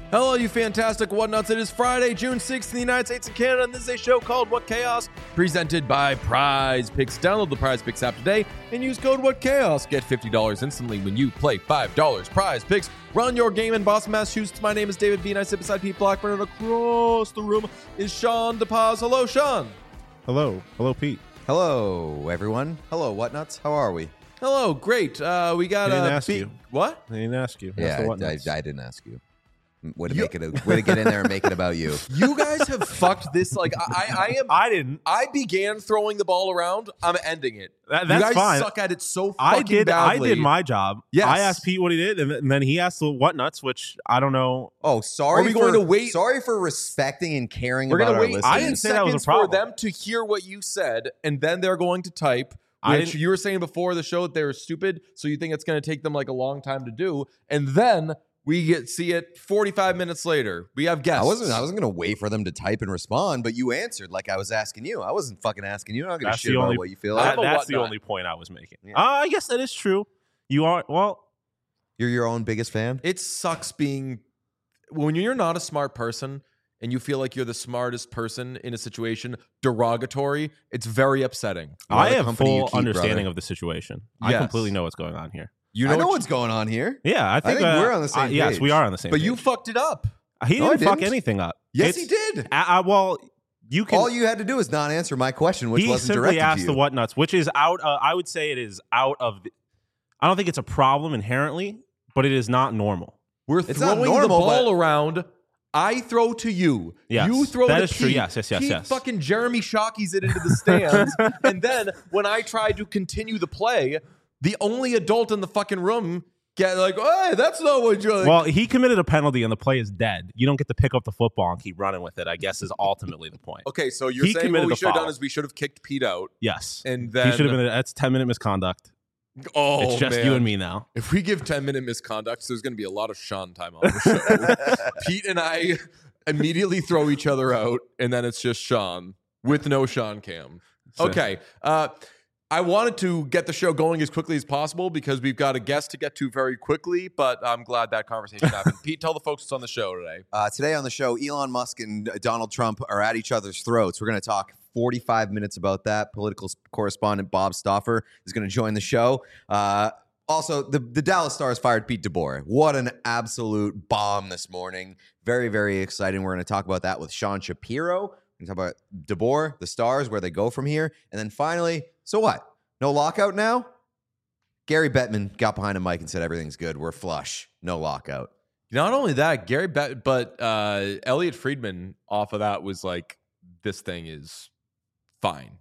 Hello, you fantastic Whatnuts. It is Friday, June 6th in the United States and Canada, and this is a show called What Chaos, presented by Prize Picks. Download the Prize Picks app today and use code What Chaos. Get $50 instantly when you play $5. Prize Picks. Run your game in Boston, Massachusetts. My name is David B, and I sit beside Pete Blackburn, and across the room is Sean DePaz. Hello, Sean. Hello. Hello, Pete. Hello, everyone. Hello, Whatnuts. How are we? Hello, great. We got I didn't ask you. What? I didn't ask you. Yeah, That's I didn't ask you. Way to get in there and make it about you. You guys have fucked this. Like I didn't. I began throwing the ball around. I'm ending it. That's you guys fine. suck at it so fucking badly. I did my job. Yes. I asked Pete what he did, and then he asked the Whatnuts, which I don't know. Oh, sorry. Are we going to wait? Sorry for respecting and caring We're about gonna our wait listeners. I didn't say that was a 10 seconds problem. for them to hear what you said, and then they're going to type. Which you were saying before the show that they were stupid, so you think it's going to take them like a long time to do, and then we see it 45 minutes later. We have guests. I wasn't going to wait for them to type and respond, but you answered like I was asking you. I wasn't fucking asking you. I'm not going to shit about what you feel like. That's the only point I was making. Yeah. I guess that is true. You are, well. You're your own biggest fan? It sucks being when you're not a smart person and you feel like you're the smartest person in a situation derogatory. It's very upsetting. I have full understanding of the situation. Yes. I completely know what's going on here. You I know what's going on here. Yeah, I think we're on the same page. Yes, we are on the same But page. you fucked it up. He No, I didn't fuck didn't. anything up. Yes, he did. Well, you can. All you had to do is not answer my question, which he wasn't simply directed asked to the you. Whatnuts, which is out. I would say it is out of. I don't think it's a problem inherently, but it is not normal. We're It's not throwing the normal, ball but- around. I throw to you. Yes, You throw that to is true. Pete. Yes. Pete fucking Jeremy Shockey's it into the stands. And then when I try to continue the play, the only adult in the fucking room get like, hey, that's not what you're like. Well, he committed a penalty and the play is dead. You don't get to pick up the football and keep running with it, I guess, is ultimately the point. Okay, so you're He saying what committed we a should have done foul. is we should have kicked Pete out. Yes. And then He should have been. That's 10-minute misconduct. Oh, It's just man. you and me now. If we give 10-minute misconducts, there's going to be a lot of Sean time on the show. Pete and I immediately throw each other out, and then it's just Sean with no Sean Cam. Okay. I wanted to get the show going as quickly as possible because we've got a guest to get to very quickly, but I'm glad that conversation happened. Pete, tell the folks what's on the show today. Today on the show, Elon Musk and Donald Trump are at each other's throats. We're going to talk 45 minutes about that. Political correspondent Bob Stauffer is going to join the show. Also, the Dallas Stars fired Pete DeBoer. What an absolute bomb this morning. Very, very exciting. We're going to talk about that with Sean Shapiro. We're going to talk about DeBoer, the Stars, where they go from here. And then finally, so what? No lockout now? Gary Bettman got behind a mic and said everything's good. We're flush. No lockout. Not only that, but Elliot Friedman off of that was like, this thing is fine.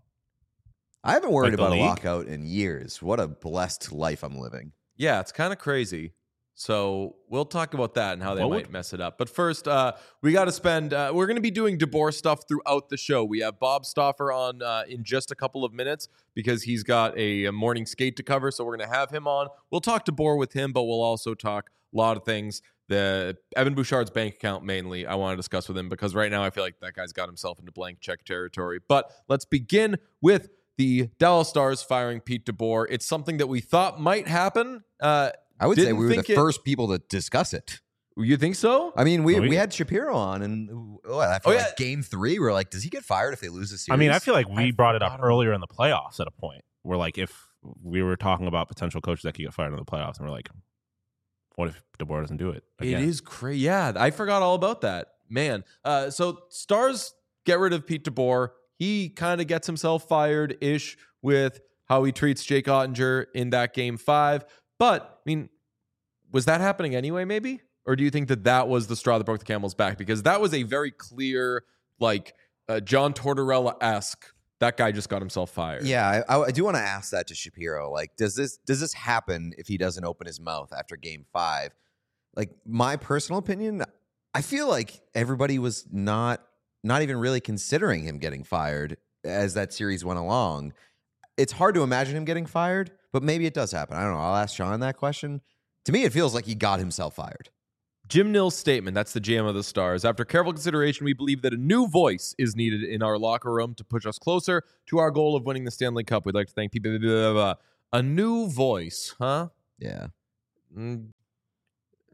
I haven't worried Like the about a league? lockout in years. What a blessed life I'm living. Yeah, it's kind of crazy. So we'll talk about that and how they What might would- mess it up. But first, we got to spend. We're going to be doing DeBoer stuff throughout the show. We have Bob Stauffer on in just a couple of minutes because he's got a morning skate to cover. So we're going to have him on. We'll talk DeBoer with him, but we'll also talk a lot of things. The Evan Bouchard's bank account mainly I want to discuss with him because right now I feel like that guy's got himself into blank check territory. But let's begin with the Dallas Stars firing Pete DeBoer. It's something that we thought might happen. I would say Didn't we were the think it- first people to discuss it. You think so? I mean, we had Shapiro on, and after yeah. game 3, we're like, does he get fired if they lose the series? I mean, I feel like we brought it forgot up about earlier in the playoffs at a point where, like, if we were talking about potential coaches that could get fired in the playoffs, and we're like, what if DeBoer doesn't do it again? It is crazy. Yeah, I forgot all about that. Man. So Stars get rid of Pete DeBoer. He kind of gets himself fired-ish with how he treats Jake Ottinger in that game 5. But, I mean, was that happening anyway, maybe? Or do you think that that was the straw that broke the camel's back? Because that was a very clear, like, John Tortorella-esque, that guy just got himself fired. Yeah, I do want to ask that to Shapiro. Like, does this happen if he doesn't open his mouth after game 5? Like, my personal opinion, I feel like everybody was not even really considering him getting fired as that series went along. It's hard to imagine him getting fired, but maybe it does happen. I don't know. I'll ask Sean that question. To me, it feels like he got himself fired. Jim Nill's statement, that's the GM of the Stars. After careful consideration, we believe that a new voice is needed in our locker room to push us closer to our goal of winning the Stanley Cup. We'd like to thank people. Blah, blah, blah. A new voice, huh? Yeah.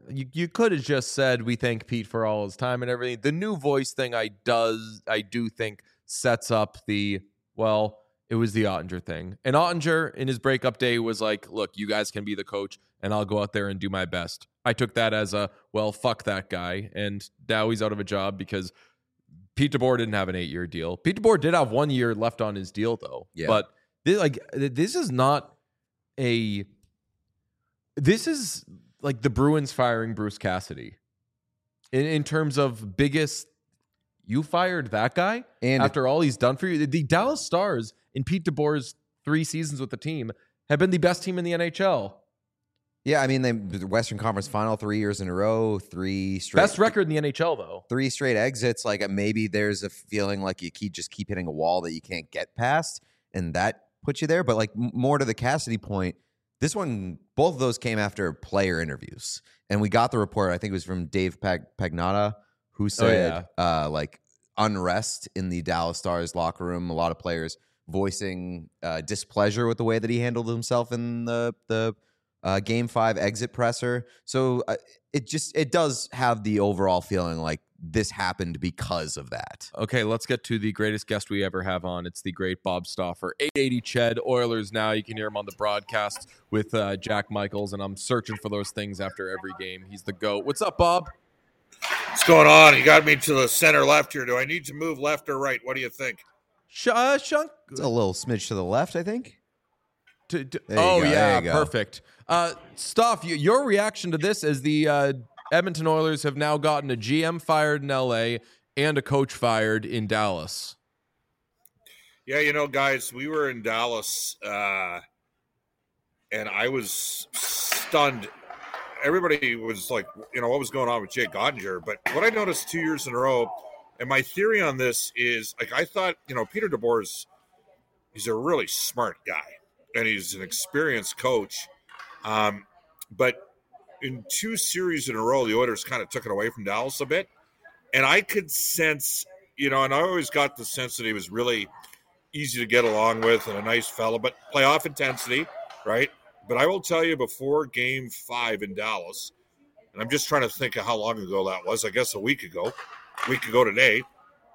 you could have just said we thank Pete for all his time and everything. The new voice thing I do think sets up the, well, it was the Ottinger thing. And Ottinger in his breakup day was like, look, you guys can be the coach and I'll go out there and do my best. I took that as a, well, fuck that guy. And now he's out of a job because Pete DeBoer didn't have an 8-year deal. Pete DeBoer did have 1 year left on his deal though. Yeah. But this is not a, this is like the Bruins firing Bruce Cassidy in terms of biggest, you fired that guy And after all he's done for you. The Dallas Stars in Pete DeBoer's 3 seasons with the team have been the best team in the NHL. yeah, I mean, the Western Conference Final 3 years in a row, 3 straight. Best record in the NHL though. 3 straight exits. Like maybe there's a feeling like you keep hitting a wall that you can't get past, and that puts you there. But like more to the Cassidy point, this one, both of those came after player interviews, and we got the report. I think it was from Dave Pagnotta, who said like unrest in the Dallas Stars locker room. A lot of players voicing displeasure with the way that he handled himself in the Game 5 exit presser. So it does have the overall feeling like this happened because of that. Okay, let's get to the greatest guest we ever have on. It's the great Bob Stauffer. 880 Ched, Oilers Now. You can hear him on the broadcast with Jack Michaels, and I'm searching for those things after every game. He's the GOAT. What's up, Bob? What's going on? You got me to the center left here. Do I need to move left or right? What do you think? Shunk. It's a little smidge to the left, I think. Oh, go, yeah, there you go. perfect. Staff, your reaction to this is the Edmonton Oilers have now gotten a GM fired in LA and a coach fired in Dallas. Yeah, guys, we were in Dallas, and I was stunned. Everybody was like, what was going on with Jake Ottinger? But what I noticed 2 years in a row, and my theory on this is, like, I thought, Peter DeBoer he's a really smart guy, and he's an experienced coach. But in 2 series in a row, the Oilers kind of took it away from Dallas a bit. And I could sense, and I always got the sense that he was really easy to get along with and a nice fellow, but playoff intensity, right? But I will tell you, before Game 5 in Dallas, and I'm just trying to think of how long ago that was, I guess a week ago today,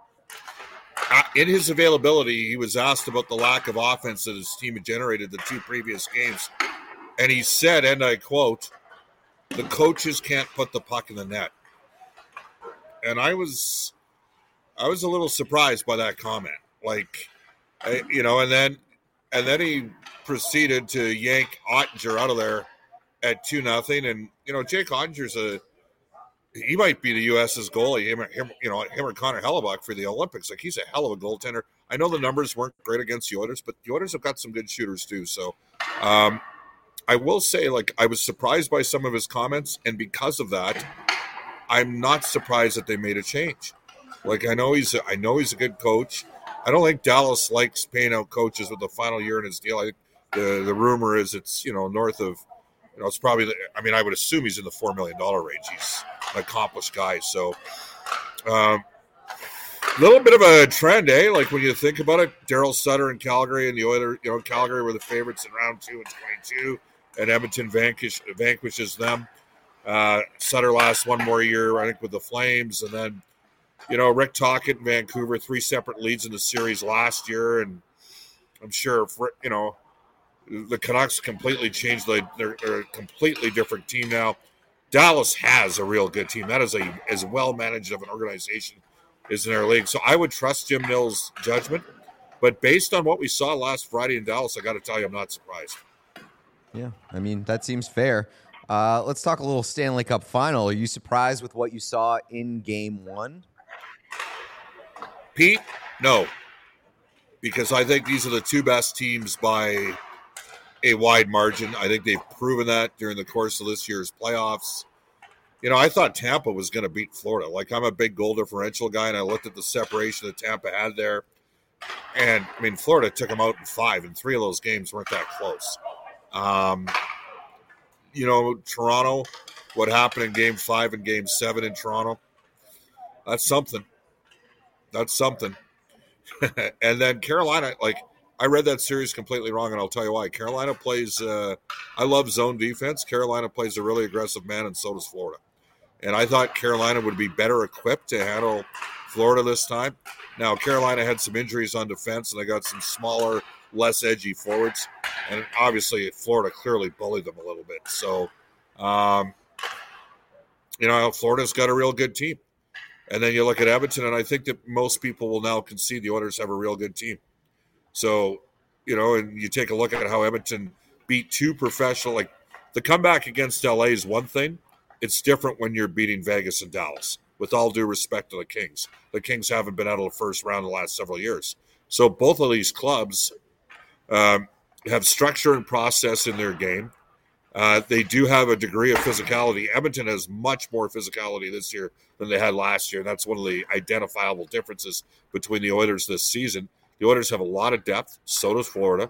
in his availability, he was asked about the lack of offense that his team had generated the 2 previous games. And he said, and I quote, "The coaches can't put the puck in the net." And I was a little surprised by that comment. Like, and then he proceeded to yank Ottinger out of there at 2-0. And Jake Ottinger's he might be the U.S.'s goalie. Him or Connor Hellebuck for the Olympics. Like, he's a hell of a goaltender. I know the numbers weren't great against the Oilers, but the Oilers have got some good shooters too. So, I will say, like, I was surprised by some of his comments, and because of that, I'm not surprised that they made a change. Like, I know he's a good coach. I don't think Dallas likes paying out coaches with the final year in his deal. I think the rumor is it's north of, it's probably. I would assume he's in the $4 million range. He's an accomplished guy, so a little bit of a trend, eh? Like, when you think about it, Darryl Sutter and Calgary, and the Oilers. Calgary were the favorites in round 2 and 22. And Edmonton vanquishes them. Sutter lasts 1 more year, I think, with the Flames. And then, Rick Tocchet in Vancouver, 3 separate leads in the series last year. And I'm sure, the Canucks completely changed. They're a completely different team now. Dallas has a real good team. That is as well-managed of an organization as in our league. So I would trust Jim Nill's judgment. But based on what we saw last Friday in Dallas, I got to tell you, I'm not surprised. Yeah, that seems fair. Let's talk a little Stanley Cup final. Are you surprised with what you saw in Game 1? Pete, no. Because I think these are the 2 best teams by a wide margin. I think they've proven that during the course of this year's playoffs. I thought Tampa was going to beat Florida. Like, I'm a big goal differential guy, and I looked at the separation that Tampa had there. And, Florida took them out in 5, and 3 of those games weren't that close. Toronto, what happened in Game 5 and Game 7 in Toronto, that's something. And then Carolina, like, I read that series completely wrong, and I'll tell you why. Carolina plays I love zone defense. Carolina plays a really aggressive man, and so does Florida. And I thought Carolina would be better equipped to handle Florida this time. Now, Carolina had some injuries on defense, and they got some smaller, less edgy forwards. And obviously, Florida clearly bullied them a little bit. So, Florida's got a real good team. And then you look at Edmonton, and I think that most people will now concede the Oilers have a real good team. So, and you take a look at how Edmonton beat two professional, like the comeback against LA is one thing. It's different when you're beating Vegas and Dallas, with all due respect to the Kings. The Kings haven't been out of the first round in the last several years. So both of these clubs have structure and process in their game. They do have a degree of physicality. Edmonton has much more physicality this year than they had last year. And that's one of the identifiable differences between the Oilers this season. The Oilers have a lot of depth. So does Florida.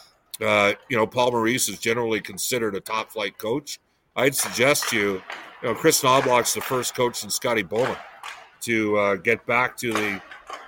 Paul Maurice is generally considered a top-flight coach. I'd suggest to you, Chris Knobloch's the first coach since Scotty Bowman to get back to the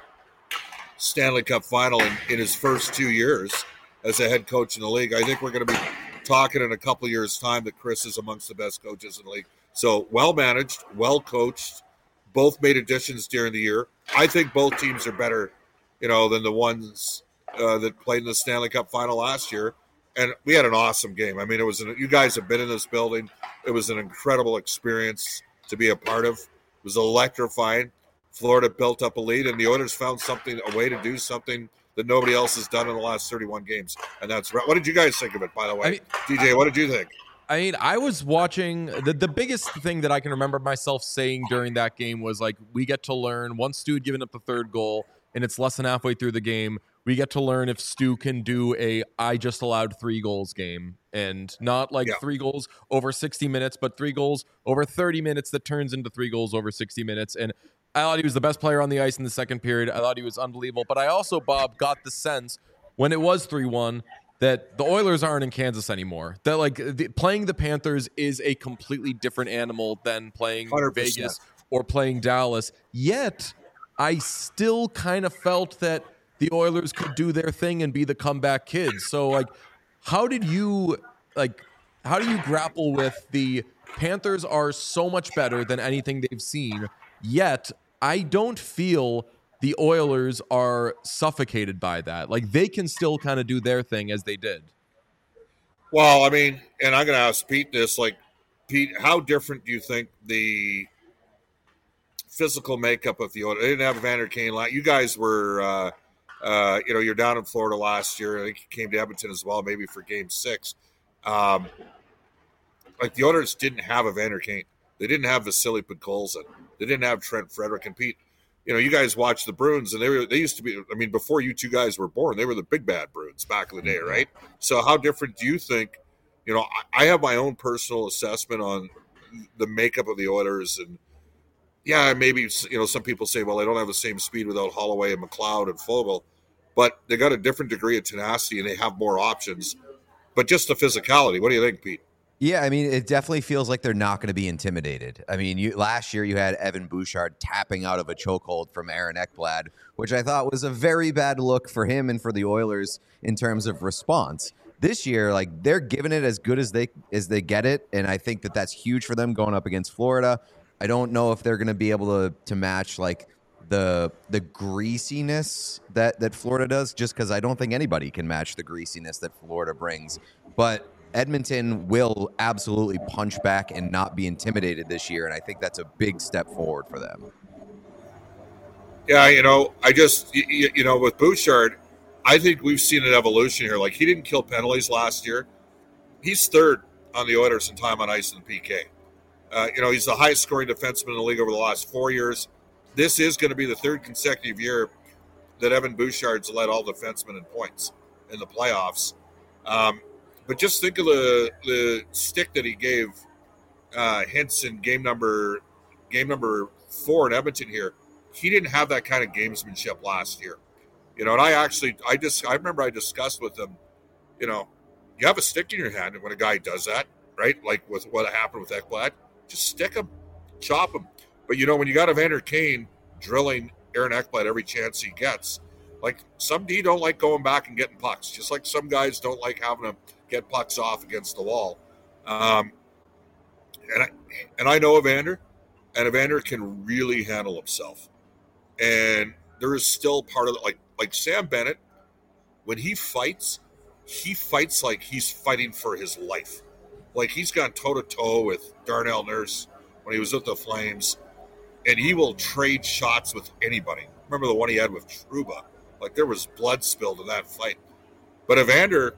Stanley Cup final in his first 2 years as a head coach in the league. I think we're going to be talking in a couple of years' time that Chris is amongst the best coaches in the league. So well-managed, well-coached, both made additions during the year. I think both teams are better, than the ones that played in the Stanley Cup final last year. And we had an awesome game. I mean, you guys have been in this building. It was an incredible experience to be a part of. It was electrifying. Florida built up a lead, and the Oilers found a way to do something that nobody else has done in the last 31 games. And that's right. What did you guys think of it, by the way? DJ, what did you think? I was watching the biggest thing that I can remember myself saying during that game was like, we get to learn once Stu had given up the third goal and it's less than halfway through the game, we get to learn if Stu can do I just allowed 3 goals game, and not like 3 goals over 60 minutes, but 3 goals over 30 minutes that turns into 3 goals over 60 minutes. And I thought he was the best player on the ice in the second period. I thought he was unbelievable. But I also, Bob, got the sense when it was 3-1 that the Oilers aren't in Kansas anymore. That playing the Panthers is a completely different animal than playing 100%. Vegas or playing Dallas. Yet I still kind of felt that the Oilers could do their thing and be the comeback kids. So, how do you grapple with the Panthers are so much better than anything they've seen, yet I don't feel the Oilers are suffocated by that. They can still kind of do their thing as they did. Well, I mean, and I'm going to ask Pete this. Pete, how different do you think the physical makeup of the Oilers? They didn't have Evander Kane. You guys were... you're down in Florida last year. I think you came to Edmonton as well, maybe for Game 6. The Oilers didn't have Evander Kane. They didn't have Vasily Podkolzin. They didn't have Trent Frederick and Pete. You guys watched the Bruins, and they used to be. I mean, before you two guys were born, they were the big bad Bruins back in the day, right? So, how different do you think? I have my own personal assessment on the makeup of the Oilers, and maybe some people say, well, they don't have the same speed without Holloway and McLeod and Fogle. But they got a different degree of tenacity, and they have more options. But just the physicality. What do you think, Pete? Yeah, I mean, it definitely feels like they're not going to be intimidated. I mean, last year you had Evan Bouchard tapping out of a chokehold from Aaron Ekblad, which I thought was a very bad look for him and for the Oilers in terms of response. This year, they're giving it as good as they get it, and I think that that's huge for them going up against Florida. I don't know if they're going to be able to match the greasiness that Florida does, just because I don't think anybody can match the greasiness that Florida brings. But Edmonton will absolutely punch back and not be intimidated this year, and I think that's a big step forward for them. Yeah, I just, with Bouchard, I think we've seen an evolution here. He didn't kill penalties last year. He's third on the Oilers in time on ice in the PK. He's the highest scoring defenseman in the league over the last 4 years. This is going to be the third consecutive year that Evan Bouchard's led all defensemen in points in the playoffs. But just think of the stick that he gave Hintz in game number 4 in Edmonton here. He didn't have that kind of gamesmanship last year. And I remember I discussed with him, you have a stick in your hand, and when a guy does that, right, like with what happened with Ekblad, just stick him, chop him. But, when you got Evander Kane drilling Aaron Ekblad every chance he gets, some D don't like going back and getting pucks, just like some guys don't like having to get pucks off against the wall. And I know Evander. and Evander can really handle himself. And there is still part of it, like Sam Bennett, when he fights like he's fighting for his life. Like he's gone toe-to-toe with Darnell Nurse when he was with the Flames, and he will trade shots with anybody. Remember the one he had with Trouba? Like there was blood spilled in that fight. But Evander,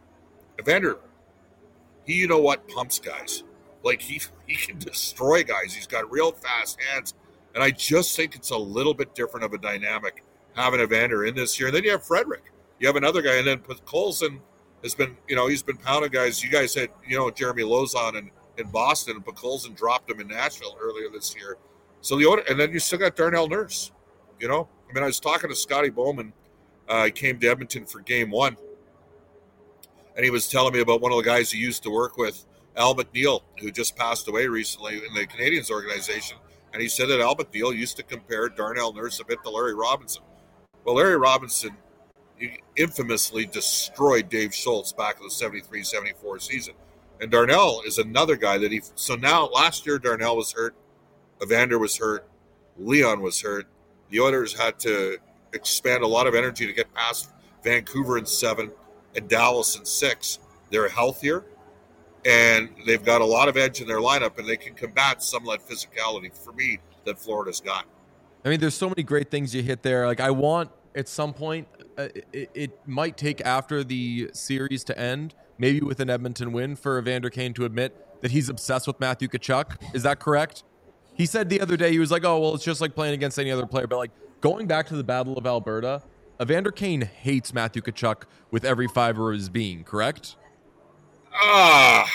he, you know what, pumps guys. Like he can destroy guys. He's got real fast hands. And I just think it's a little bit different of a dynamic having Evander in this year. And then you have Frederick. You have another guy. And then Colson has been, he's been pounding guys. You guys had, Jeremy Lozon in Boston, and Colson dropped him in Nashville earlier this year. So and then you still got Darnell Nurse, I was talking to Scotty Bowman. He came to Edmonton for game 1. And he was telling me about one of the guys he used to work with, Al McNeil, who just passed away recently in the Canadiens organization. And he said that Al McNeil used to compare Darnell Nurse a bit to Larry Robinson. Well, Larry Robinson infamously destroyed Dave Schultz back in the 73-74 season. And Darnell is another guy that so now last year Darnell was hurt, Evander was hurt, Leon was hurt. The Oilers had to expand a lot of energy to get past Vancouver in 7 and Dallas in 6. They're healthier, and they've got a lot of edge in their lineup, and they can combat some of that physicality for me that Florida's got. I mean, there's so many great things you hit there. Like, I want at some point, it might take after the series to end, maybe with an Edmonton win, for Evander Kane to admit that he's obsessed with Matthew Tkachuk. Is that correct? He said the other day, he was like, oh, well, it's just like playing against any other player. But, like, going back to the Battle of Alberta, Evander Kane hates Matthew Tkachuk with every fiber of his being, correct? I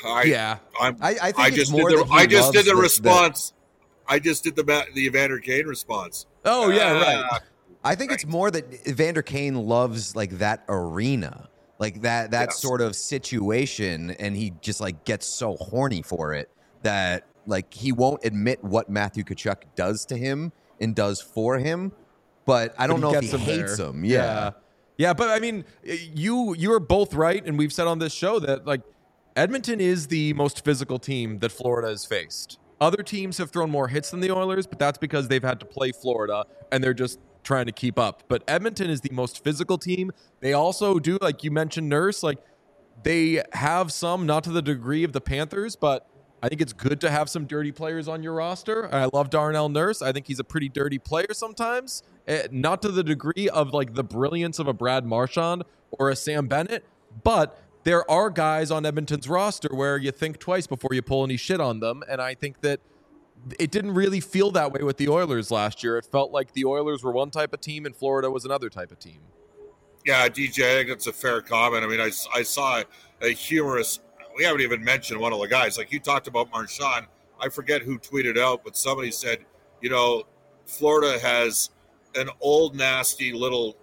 just did the Evander Kane response. Oh, yeah, right. I think it's more that Evander Kane loves like that arena, like that yes. sort of situation, and he just like gets so horny for it that like he won't admit what Matthew Tkachuk does to him and does for him. But I don't know if he hates him. Yeah. But I mean, you are both right, and we've said on this show that like Edmonton is the most physical team that Florida has faced. Other teams have thrown more hits than the Oilers, but that's because they've had to play Florida, and they're just trying to keep up. But Edmonton is the most physical team. They also do, like you mentioned, Nurse, like they have some, not to the degree of the Panthers, but I think it's good to have some dirty players on your roster. I love Darnell Nurse. I think he's a pretty dirty player sometimes. Not to the degree of like the brilliance of a Brad Marchand or a Sam Bennett, but there are guys on Edmonton's roster where you think twice before you pull any shit on them. And I think that it didn't really feel that way with the Oilers last year. It felt like the Oilers were one type of team and Florida was another type of team. Yeah, DJ, I think that's a fair comment. I mean, I saw a humorous, we haven't even mentioned one of the guys. Like you talked about Marchand. I forget who tweeted out, but somebody said, Florida has an old, nasty little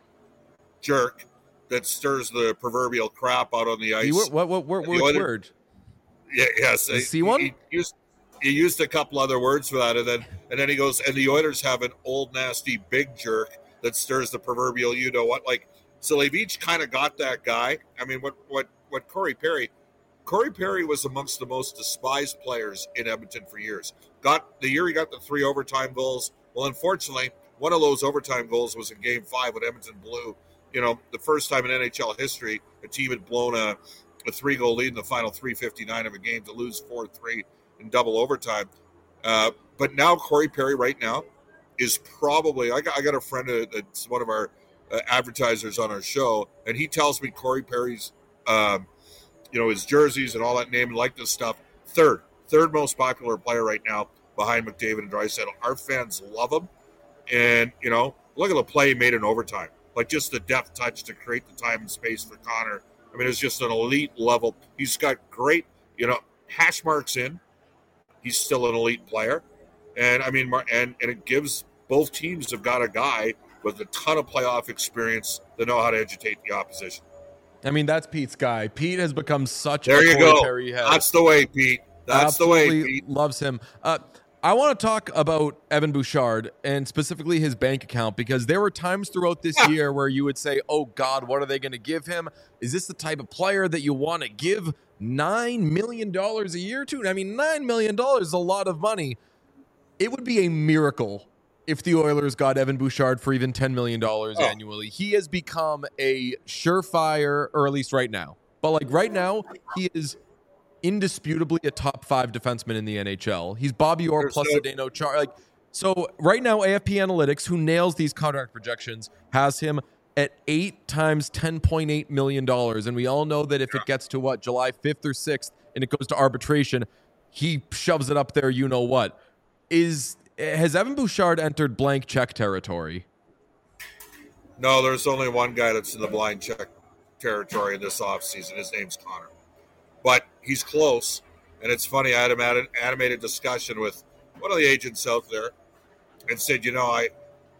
jerk that stirs the proverbial crap out on the ice. What word? Yeah, yes. See one? He used a couple other words for that, and then he goes, and the Oilers have an old, nasty, big jerk that stirs the proverbial you-know-what. Like, so they've each kind of got that guy. I mean, what Corey Perry was amongst the most despised players in Edmonton for years. The year he got the 3 overtime goals. Well, unfortunately, one of those overtime goals was in Game 5 when Edmonton blew. The first time in NHL history, a team had blown a 3-goal lead in the final 3:59 of a game to lose 4-3 in double overtime. But now Corey Perry right now is probably, I got a friend that's one of our advertisers on our show, and he tells me Corey Perry's, his jerseys and all that name and likeness stuff, third most popular player right now behind McDavid and Draisaitl. Our fans love him. And, look at the play he made in overtime. Like just the depth touch to create the time and space for Connor. I mean, it's just an elite level. He's got great, hash marks in. He's still an elite player. And I mean, and it gives both teams have got a guy with a ton of playoff experience that know how to agitate the opposition. I mean, that's Pete's guy. Pete has become such there a you go. Perry head. That's the way, Pete. That's Absolutely the way, Pete. Loves him. I want to talk about Evan Bouchard and specifically his bank account, because there were times throughout this year where you would say, oh, God, what are they going to give him? Is this the type of player that you want to give $9 million a year to? I mean, $9 million is a lot of money. it would be a miracle if the Oilers got Evan Bouchard for even $10 million annually. He has become a surefire, or at least right now. But like right now, he is indisputably a top 5 defenseman in the NHL. He's Bobby Orr plus Zdeno Chara. Like, so right now, AFP Analytics, who nails these contract projections, has him at 8 times $10.8 million. And we all know that if it gets to July 5th or 6th and it goes to arbitration, he shoves it up there, you know what. Has Evan Bouchard entered blank check territory? No, there's only one guy that's in the blind check territory in this offseason. His name's Connor. But he's close. And it's funny, I had an animated discussion with one of the agents out there and said, I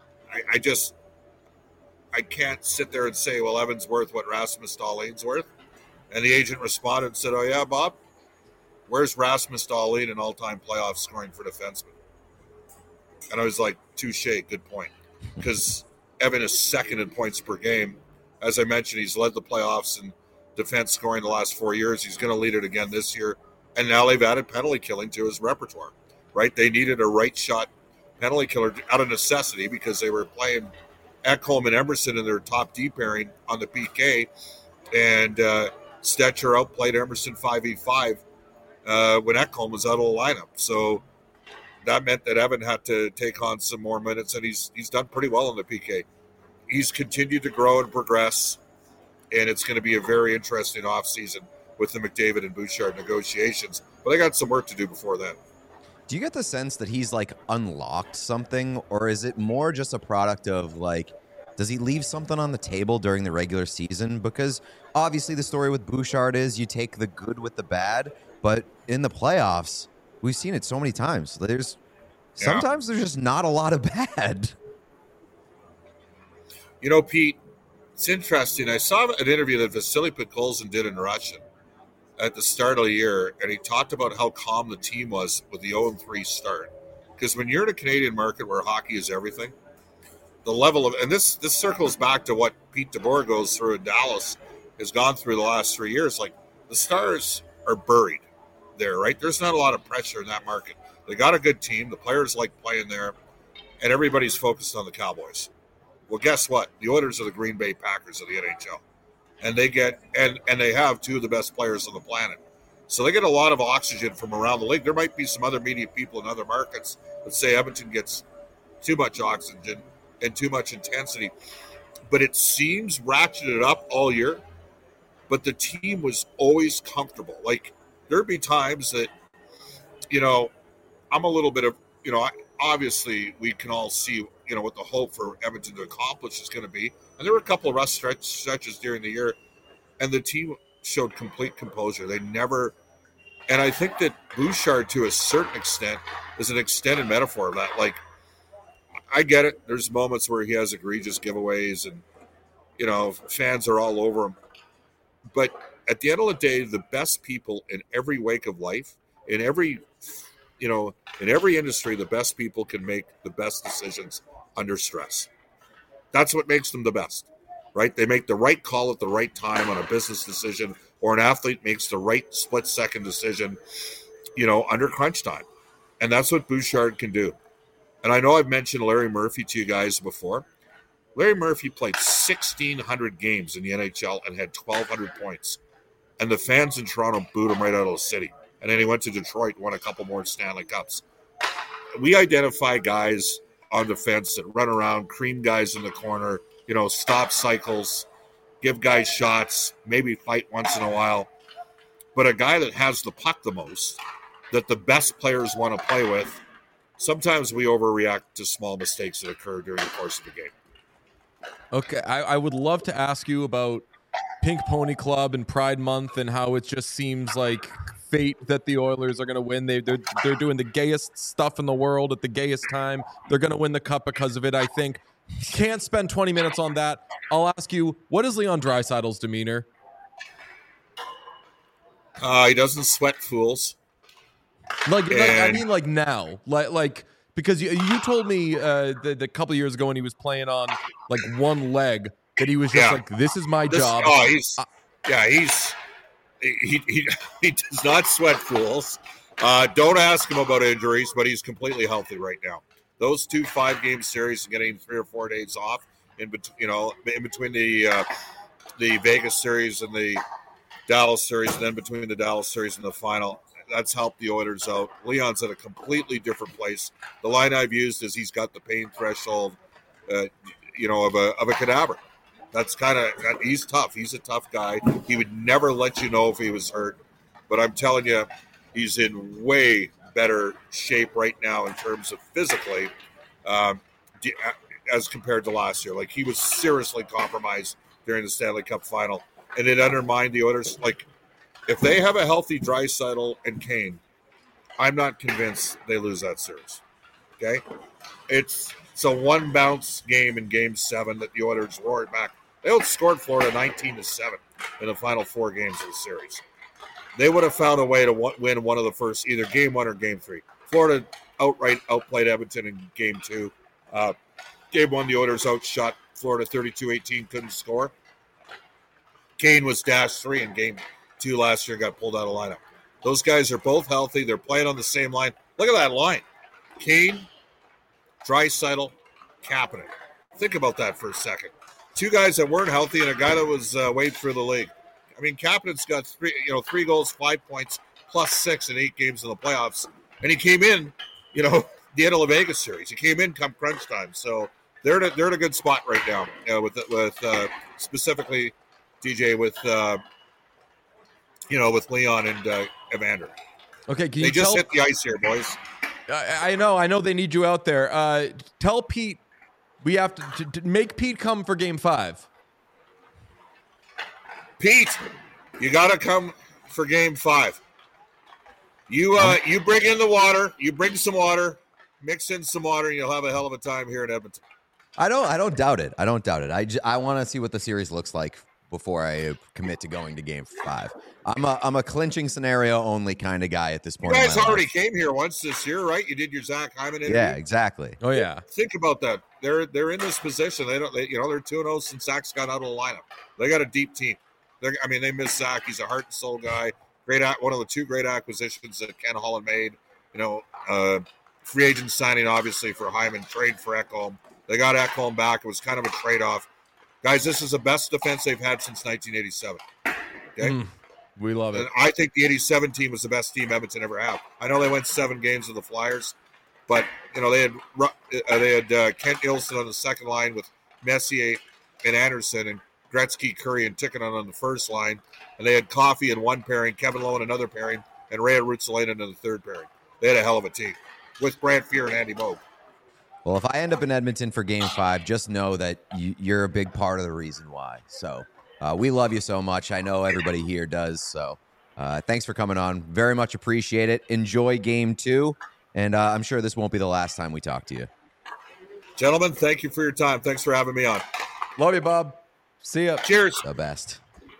can't sit there and say, well, Evan's worth what Rasmus Dahlin's worth. And the agent responded and said, oh, yeah, Bob, where's Rasmus Dahlin in all-time playoff scoring for defensemen? And I was like, touche, good point. Because Evan is second in points per game. As I mentioned, he's led the playoffs in defense scoring the last 4 years. He's going to lead it again this year. And now they've added penalty killing to his repertoire, right? They needed a right shot penalty killer out of necessity because they were playing Ekholm and Emerson in their top D pairing on the PK. And Stetcher outplayed Emerson 5v5 when Ekholm was out of the lineup. So that meant that Evan had to take on some more minutes, and he's done pretty well in the PK. He's continued to grow and progress, and it's going to be a very interesting offseason with the McDavid and Bouchard negotiations. But they got some work to do before then. Do you get the sense that he's like unlocked something, or is it more just a product of like, does he leave something on the table during the regular season? Because obviously the story with Bouchard is you take the good with the bad, but in the playoffs, we've seen it so many times. Sometimes there's just not a lot of bad. Pete, it's interesting. I saw an interview that Vasily Podkolzin did in Russian at the start of the year, and he talked about how calm the team was with the 0-3 start. Because when you're in a Canadian market where hockey is everything, the level of, and this circles back to what Pete DeBoer goes through in Dallas, has gone through the last 3 years. Like, the Stars are buried there, right? There's not a lot of pressure in that market. They got a good team. The players like playing there, and everybody's focused on the Cowboys. Well, guess what? The Oilers are the Green Bay Packers of the NHL, and they get and they have two of the best players on the planet. So they get a lot of oxygen from around the league. There might be some other media people in other markets that say Edmonton gets too much oxygen and too much intensity, but it seems ratcheted up all year. But the team was always comfortable. Like, there'd be times that, I'm a little bit of, obviously we can all see, what the hope for Edmonton to accomplish is going to be. And there were a couple of rough stretches during the year, and the team showed complete composure. They never, and I think that Bouchard, to a certain extent, is an extended metaphor of that. Like, I get it. There's moments where he has egregious giveaways, and, fans are all over him. But at the end of the day, the best people in every wake of life, in every industry, the best people can make the best decisions under stress. That's what makes them the best, right? They make the right call at the right time on a business decision, or an athlete makes the right split-second decision, under crunch time. And that's what Bouchard can do. And I know I've mentioned Larry Murphy to you guys before. Larry Murphy played 1,600 games in the NHL and had 1,200 points. And the fans in Toronto booed him right out of the city. And then he went to Detroit, won a couple more Stanley Cups. We identify guys on the fence that run around, cream guys in the corner, stop cycles, give guys shots, maybe fight once in a while. But a guy that has the puck the most, that the best players want to play with, sometimes we overreact to small mistakes that occur during the course of the game. Okay, I would love to ask you about Pink Pony Club and Pride Month and how it just seems like fate that the Oilers are going to win. They're doing the gayest stuff in the world at the gayest time. They're going to win the cup because of it, I think. Can't spend 20 minutes on that. I'll ask you, what is Leon Draisaitl's demeanor? He doesn't sweat fools. Like now. Like because you told me that a couple of years ago when he was playing on like one leg that he was just like, this is my job. He does not sweat fools. Don't ask him about injuries, but he's completely healthy right now. Those 2 5-game series, getting 3 or 4 days off in between the Vegas series and the Dallas series, and then between the Dallas series and the final, that's helped the Oilers out. Leon's at a completely different place. The line I've used is he's got the pain threshold, of a cadaver. That's he's tough. He's a tough guy. He would never let you know if he was hurt, but I'm telling you, he's in way better shape right now in terms of physically, as compared to last year. Like, he was seriously compromised during the Stanley Cup final, and it undermined the Oilers. Like, if they have a healthy Draisaitl and Kane, I'm not convinced they lose that series. Okay? It's a one-bounce game in Game 7 that the Oilers roared back. They outscored Florida 19-7 in the final 4 games of the series. They would have found a way to win one of the first, either Game 1 or Game 3. Florida outright outplayed Edmonton in Game 2. Game 1, the Oilers outshot Florida 32-18, couldn't score. Kane was -3 in Game 2 last year, got pulled out of lineup. Those guys are both healthy. They're playing on the same line. Look at that line. Kane, Draisaitl, Kapanen. Think about that for a second. 2 guys that weren't healthy and a guy that was waved through the league. I mean, Kapanen's got 3 goals, 5 points, +6 in 8 games in the playoffs. And he came in, the end of the Vegas series. He came in come crunch time. So they're in a good spot right now with specifically DJ with Leon and Evander. Okay, can you they just hit the ice here, boys. I know they need you out there. Tell Pete we have to make Pete come for Game 5. Pete, you got to come for Game 5. You bring in the water. You bring some water, mix in some water, and you'll have a hell of a time here in Edmonton. I don't doubt it. I want to see what the series looks like before I commit to going to Game 5. I'm a clinching scenario only kind of guy at this point. You guys already came here once this year, right? You did your Zach Hyman interview. Yeah, exactly. Oh yeah. Think about that. They're in this position. They're 2-0 since Zach's got out of the lineup. They got a deep team. They miss Zach. He's a heart and soul guy. One of the 2 great acquisitions that Ken Holland made. Free agent signing obviously for Hyman, trade for Ekholm. They got Ekholm back. It was kind of a trade-off. Guys, this is the best defense they've had since 1987. Okay? We love it. And I think the 87 team was the best team Edmonton ever had. I know they went 7 games with the Flyers, but they had Kent Ilson on the second line with Messier and Anderson and Gretzky, Curry, and Tikkanen on the first line. And they had Coffey in one pairing, Kevin Lowe in another pairing, and Ray Ruotsalainen in the third pairing. They had a hell of a team with Brant Fuhr and Andy Moog. Well, if I end up in Edmonton for Game 5, just know that you're a big part of the reason why. So we love you so much. I know everybody here does. So thanks for coming on. Very much appreciate it. Enjoy Game 2. And I'm sure this won't be the last time we talk to you. Gentlemen, thank you for your time. Thanks for having me on. Love you, Bob. See ya. Cheers. The best.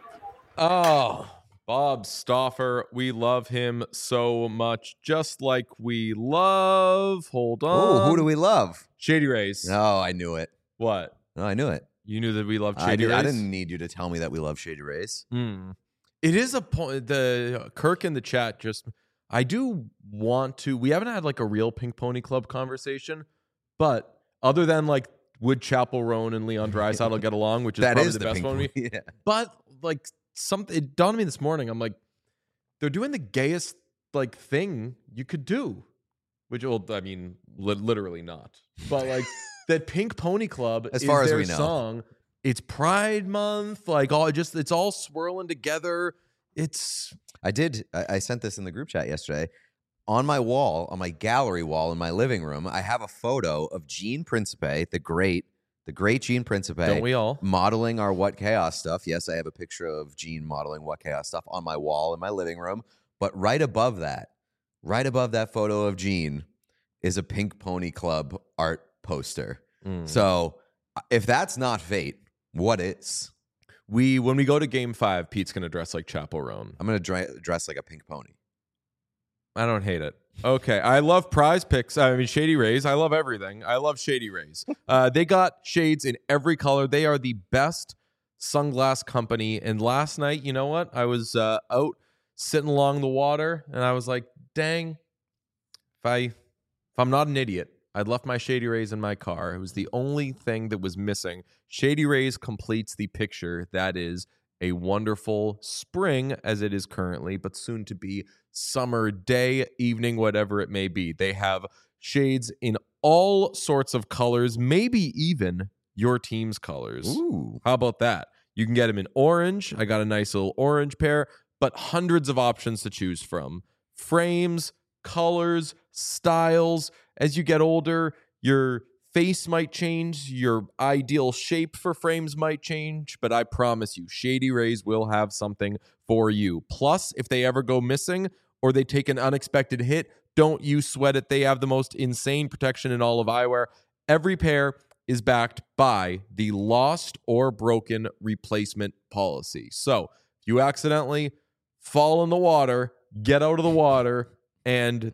Oh, Bob Stauffer. We love him so much. Just like we love. Hold on. Oh, who do we love? Shady Rays. No, I knew it. What? No, I knew it. You knew that we loved Shady Rays? I didn't need you to tell me that we love Shady Rays. It is a point. The Kirk in the chat just. I do want to. We haven't had like a real Pink Pony Club conversation, but other than like would Chapel Roan and Leon Draisaitl get along, which is That probably is the the best Pink one. Pony, yeah. But like something, it dawned on me this morning. I'm like, they're doing the gayest like thing you could do, which literally not. But like that Pink Pony Club as is far as their we know. song. It's Pride Month, like it's all swirling together. I sent this in the group chat yesterday. On my wall, on my gallery wall in my living room, I have a photo of Gene Principe, the great Gene Principe. Don't we all? Modeling our What Chaos stuff. Yes, I have a picture of Gene modeling What Chaos stuff on my wall in my living room. But right above that photo of Gene is a Pink Pony Club art poster. So if that's not fate, what is? When we go to Game 5, Pete's going to dress like Chapel Roan. I'm going to dress like a pink pony. I don't hate it. Okay. I love Prize Picks. Shady Rays. I love everything. I love Shady Rays. They got shades in every color. They are the best sunglass company. And last night, you know what? I was out sitting along the water, and I was like, dang, if I'm not an idiot, I'd left my Shady Rays in my car. It was the only thing that was missing. Shady Rays completes the picture that is a wonderful spring as it is currently, but soon to be summer day, evening, whatever it may be. They have shades in all sorts of colors, maybe even your team's colors. Ooh. How about that? You can get them in orange. I got a nice little orange pair, but hundreds of options to choose from. Frames, colors, styles. As you get older, your face might change, your ideal shape for frames might change, but I promise you, Shady Rays will have something for you. Plus, if they ever go missing or they take an unexpected hit, don't you sweat it. They have the most insane protection in all of eyewear. Every pair is backed by the lost or broken replacement policy. So if you accidentally fall in the water, get out of the water, and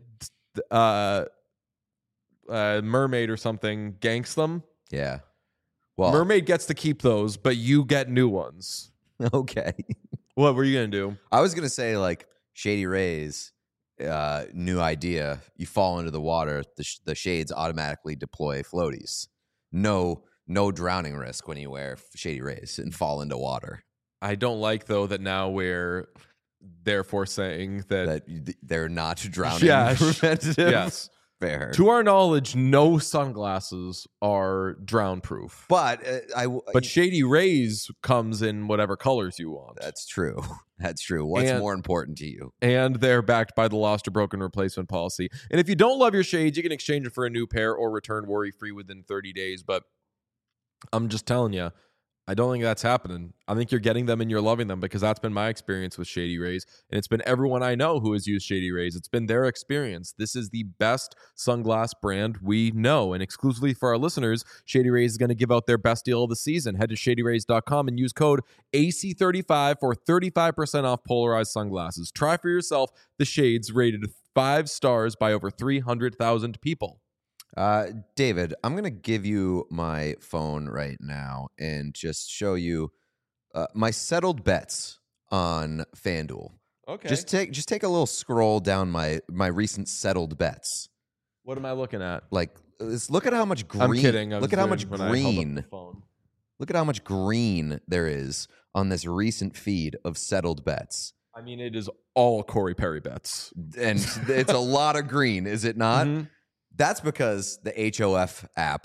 mermaid or something ganks them, Yeah. Well, mermaid gets to keep those, but you get new ones. okay. What were you gonna do? I was gonna say like Shady Rays, new idea. You fall into the water, the shades automatically deploy floaties. No drowning risk when you wear Shady Rays and fall into water. I don't like though that now we're therefore saying that They're not drowning Yeah, preventative. yes. Fair. To our knowledge, no sunglasses are drown proof. But But Shady Rays comes in whatever colors you want. that's true. That's true. What's And- more important to you? And they're backed by the lost or broken replacement policy. And if you don't love your shades, you can exchange it for a new pair or return worry-free within 30 days. But I'm just telling you, I don't think that's happening. I think you're getting them and you're loving them, because that's been my experience with Shady Rays. And it's been everyone I know who has used Shady Rays. It's been their experience. This is the best sunglass brand we know. And exclusively for our listeners, Shady Rays is going to give out their best deal of the season. Head to shadyrays.com and use code AC35 for 35% off polarized sunglasses. Try for yourself the shades rated 5 stars by over 300,000 people. David, I'm going to give you my phone right now and just show you my settled bets on FanDuel. Okay. Just take a little scroll down my recent settled bets. What am I looking at? Like, look at how much green. I'm kidding. I was Look at how doing much when I held up green. the phone. Look at how much green there is on this recent feed of settled bets. I mean, it is all Corey Perry bets. And it's a lot of green, is it not? Mhm. That's because the HOF app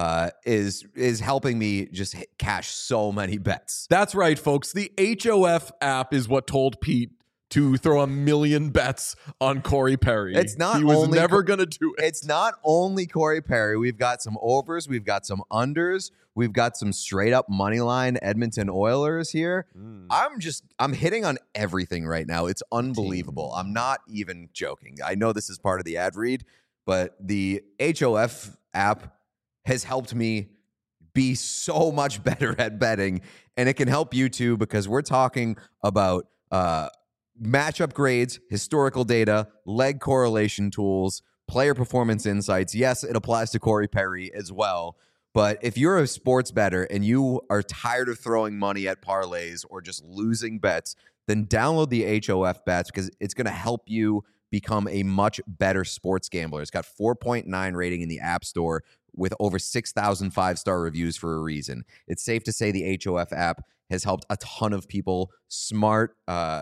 is helping me just cash so many bets. That's right, folks. The HOF app is what told Pete to throw a million bets on Corey Perry. It's not He was only never going to do it. It's not only Corey Perry. We've got some overs. We've got some unders. We've got some straight up money line Edmonton Oilers here. I'm hitting on everything right now. It's unbelievable. I'm not even joking. I know this is part of the ad read, but the HOF app has helped me be so much better at betting, and it can help you too, because we're talking about matchup grades, historical data, leg correlation tools, player performance insights. Yes, it applies to Corey Perry as well. But if you're a sports bettor and you are tired of throwing money at parlays or just losing bets, then download the HOF bets, because it's going to help you become a much better sports gambler. It's got 4.9 rating in the App Store with over 6,000 five-star reviews for a reason. It's safe to say the HOF app has helped a ton of people, smart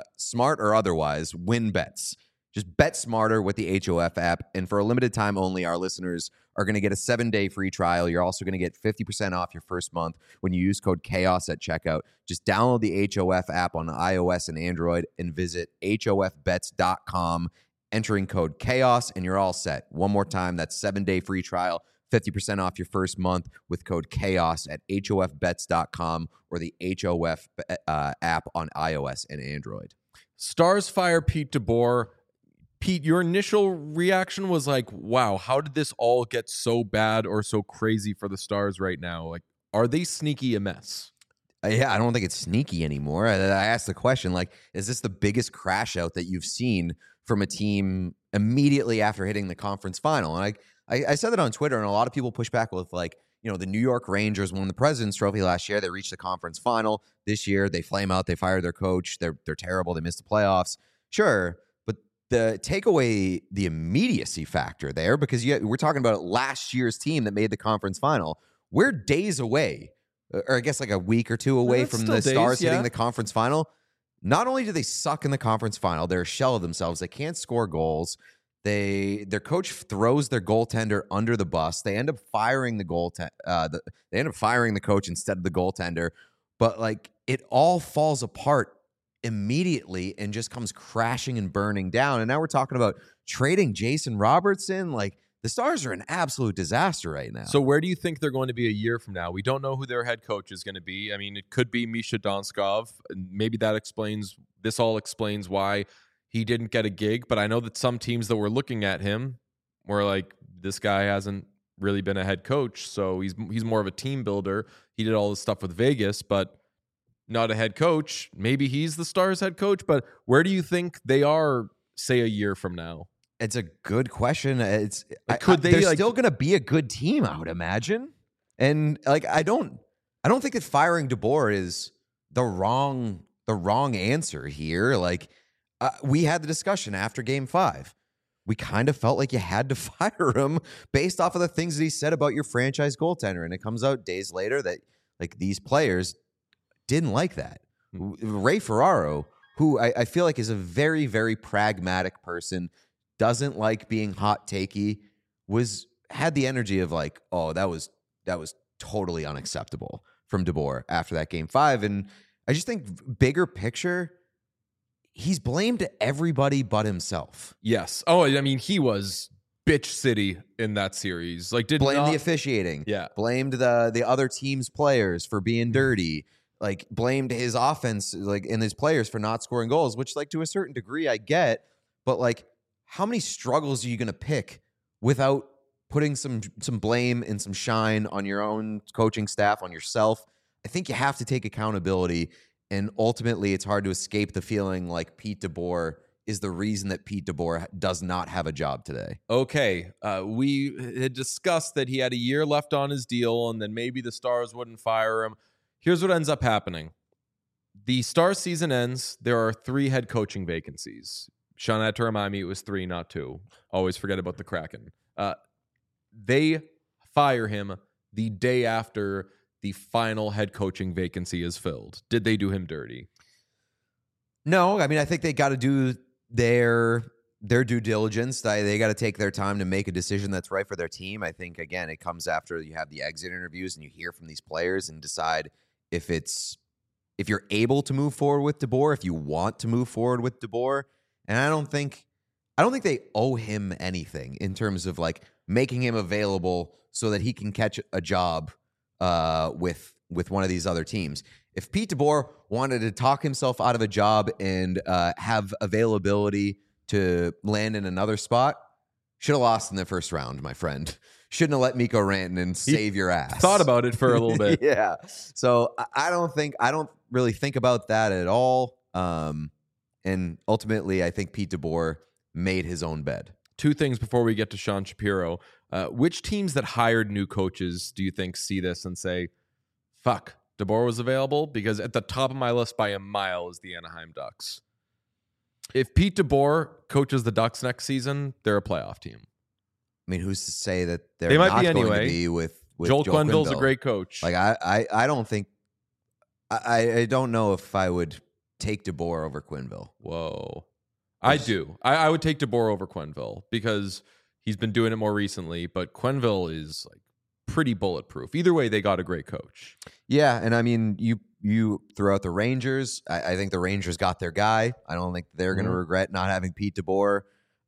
or otherwise, win bets. Just bet smarter with the HOF app. And for a limited time only, our listeners are going to get a 7-day free trial. You're also going to get 50% off your first month when you use code CHAOS at checkout. Just download the HOF app on iOS and Android and visit hofbets.com, entering code CHAOS, and you're all set. One more time, that's 7-day free trial, 50% off your first month with code CHAOS at hofbets.com or the HOF app on iOS and Android. Stars fire Pete DeBoer. Pete, your initial reaction was like, wow, how did this all get so bad or so crazy for the Stars right now? Like, are they sneaky a mess? Yeah, I don't think it's sneaky anymore. I asked the question, like, is this the biggest crash out that you've seen from a team immediately after hitting the conference final? And I said that on Twitter, and a lot of people push back with, like, you know, the New York Rangers won the President's Trophy last year. They reached the conference final. This year, they flame out. They fired their coach. They're terrible. They missed the playoffs. Sure, but take away the immediacy factor there, because we're talking about last year's team that made the conference final. We're days away, or I guess like a week or two away from the Stars hitting the conference final. Not only do they suck in the conference final, they're a shell of themselves. They can't score goals. Their coach throws their goaltender under the bus. They end up firing the they end up firing the coach instead of the goaltender. But like, it all falls apart immediately and just comes crashing and burning down. And now we're talking about trading Jason Robertson. Like, the Stars are an absolute disaster right now. So where do you think they're going to be a year from now? We don't know who their head coach is going to be. I mean, it could be Misha Donskov. Maybe this all explains why he didn't get a gig. But I know that some teams that were looking at him were like, this guy hasn't really been a head coach, so he's more of a team builder. He did all this stuff with Vegas, but not a head coach. Maybe he's the Stars head coach, but where do you think they are, say, a year from now? It's a good question. They're still going to be a good team, I would imagine. And like, I don't think that firing DeBoer is the wrong answer here. Like, we had the discussion after Game 5. We kind of felt like you had to fire him based off of the things that he said about your franchise goaltender, and it comes out days later that like these players didn't like that. Ray Ferraro, who I feel like is a very, very pragmatic person, doesn't like being hot takey, had the energy of like, oh, that was totally unacceptable from DeBoer after that Game 5. And I just think bigger picture, he's blamed everybody but himself. Yes. Oh, I mean, he was bitch city in that series. Like, blamed the officiating. Yeah. Blamed the other team's players for being dirty. Like, blamed his offense, like, and his players for not scoring goals, which, like, to a certain degree I get. But, like, how many struggles are you going to pick without putting some blame and some shine on your own coaching staff, on yourself? I think you have to take accountability, and ultimately it's hard to escape the feeling like Pete DeBoer is the reason that Pete DeBoer does not have a job today. Okay, we had discussed that he had a year left on his deal and then maybe the Stars wouldn't fire him. Here's what ends up happening. The Stars season ends. There are 3 head coaching vacancies. Sean had to remind me it was 3, not 2. Always forget about the Kraken. They fire him the day after the final head coaching vacancy is filled. Did they do him dirty? No, I mean, I think they got to do their due diligence. They got to take their time to make a decision that's right for their team. I think, again, it comes after you have the exit interviews and you hear from these players and decide if you're able to move forward with DeBoer, if you want to move forward with DeBoer. And I don't think they owe him anything in terms of like making him available so that he can catch a job with one of these other teams. If Pete DeBoer wanted to talk himself out of a job and have availability to land in another spot, should have lost in the first round, my friend. Shouldn't have let Mikko Rantanen save your ass. Thought about it for a little bit. Yeah. So I don't really think about that at all. And ultimately, I think Pete DeBoer made his own bed. 2 things before we get to Sean Shapiro. Which teams that hired new coaches do you think see this and say, fuck, DeBoer was available? Because at the top of my list by a mile is the Anaheim Ducks. If Pete DeBoer coaches the Ducks next season, they're a playoff team. I mean, who's to say that they might not be going anyway. to be with Joel Quenneville's Quenneville? a great coach. Like, I don't think I don't know if I would take DeBoer over Quenneville. Whoa. I do. I would take DeBoer over Quenneville because he's been doing it more recently, but Quenneville is like pretty bulletproof. Either way, they got a great coach. Yeah, and I mean, you throw out the Rangers. I think the Rangers got their guy. I don't think they're going to regret not having Pete DeBoer.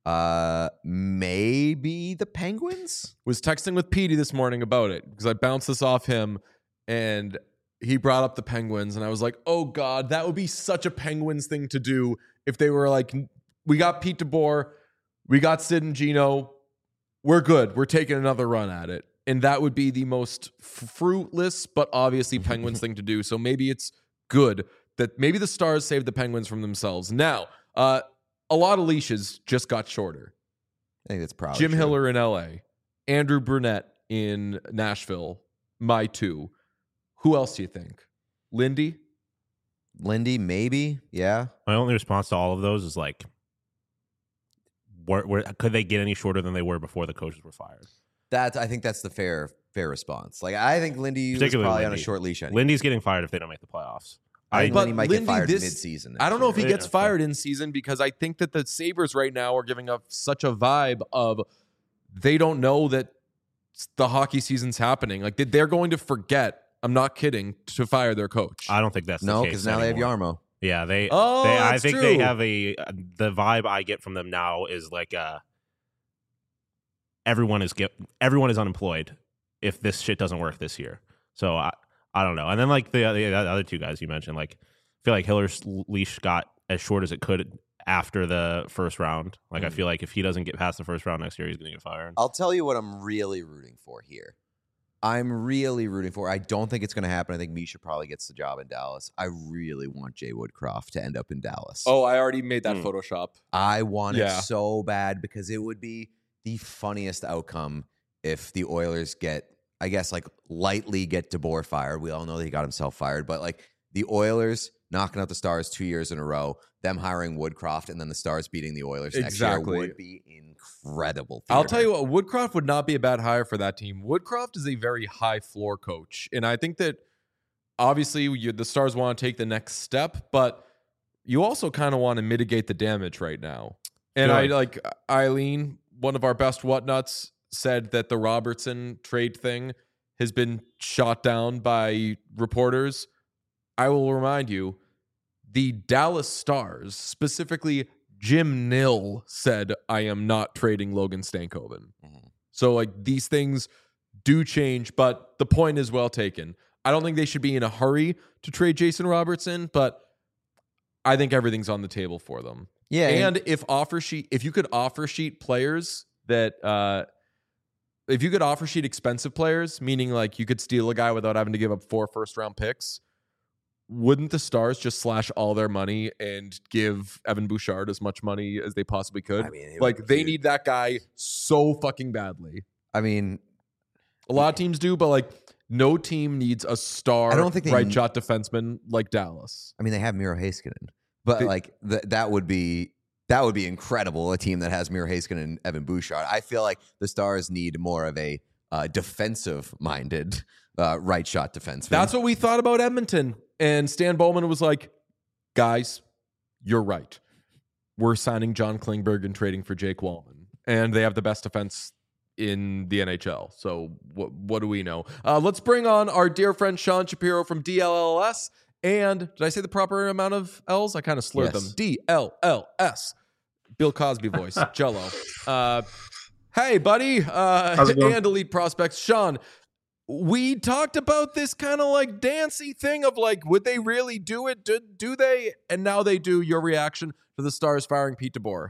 Maybe the Penguins? Was texting with Petey this morning about it because I bounced this off him and he brought up the Penguins and I was like, oh God, that would be such a Penguins thing to do if they were like, we got Pete DeBoer, we got Sid and Gino, we're good. We're taking another run at it. And that would be the most fruitless, but obviously Penguins thing to do. So maybe it's good that maybe the Stars saved the Penguins from themselves. Now, a lot of leashes just got shorter. I think that's probably Jim true. Hiller in LA, Andrew Brunette in Nashville, my 2. Who else do you think? Lindy, maybe. Yeah. My only response to all of those is like, could they get any shorter than they were before the coaches were fired? I think that's the fair response. Like, I think Lindy was Particularly probably on a Lindy. short leash. Anyway. Lindy's getting fired if they don't make the playoffs. I think But Lindy might get Lindy, fired this- mid-season. I don't know if he Yeah, gets that's fired in season because I think that the Sabres right now are giving up such a vibe of they don't know that the hockey season's happening. Like they're going to forget. I'm not kidding, to fire their coach. I don't think that's No, the because case now anymore. they have Yarmo. Yeah, Oh, I that's think true. they have the vibe I get from them now is like everyone is unemployed if this shit doesn't work this year. So I don't know. And then like the other two guys you mentioned, like I feel like Hiller's leash got as short as it could after the first round. Like I feel like if he doesn't get past the first round next year, he's going to get fired. I'll tell you what I'm really rooting for here. I'm really rooting for. I don't think it's going to happen. I think Misha probably gets the job in Dallas. I really want Jay Woodcroft to end up in Dallas. Oh, I already made that Photoshop. I want it Yeah. so bad because it would be the funniest outcome if the Oilers get, I guess, like lightly get DeBoer fired. We all know that he got himself fired, but like the Oilers knocking out the Stars 2 years in a row, them hiring Woodcroft, and then the Stars beating the Oilers next year Exactly. would be incredible. I'll theater. tell you what, Woodcroft would not be a bad hire for that team. Woodcroft is a very high floor coach. And I think that obviously the Stars want to take the next step, but you also kind of want to mitigate the damage right now. And Sure. I like Eileen, one of our best whatnuts, said that the Robertson trade thing has been shot down by reporters. I will remind you, the Dallas Stars, specifically Jim Nill, said, I am not trading Logan Stankoven. Mhm. So, like, these things do change, but the point is well taken. I don't think they should be in a hurry to trade Jason Robertson, but I think everything's on the table for them. Yeah, And if you could offer sheet players that, if you could offer sheet expensive players, meaning like you could steal a guy without having to give up 4 first-round picks, wouldn't the Stars just slash all their money and give Evan Bouchard as much money as they possibly could? I mean, it Like, would they be- need that guy so fucking badly. I mean, A lot of teams do, but like no team needs a star I don't think they right need- shot defenseman like Dallas. they have Miro Heiskanen, but They- like that would be incredible. A team that has Miro Heiskanen and Evan Bouchard. I feel like the Stars need more of a defensive-minded right shot defenseman. That's what we thought about Edmonton. And Stan Bowman was like, guys, you're right. We're signing John Klingberg and trading for Jake Wallman. And they have the best defense in the NHL. So what do we know? Let's bring on our dear friend Sean Shapiro from DLLS. And did I say the proper amount of L's? I kind of slurred Yes. them. DLLS. Bill Cosby voice. Jello. Hey, buddy. it going? And Elite Prospects. Sean, we talked about this kind of like dancey thing of like, would they really do it? Do they? And now they do. Your reaction to the Stars firing Pete DeBoer?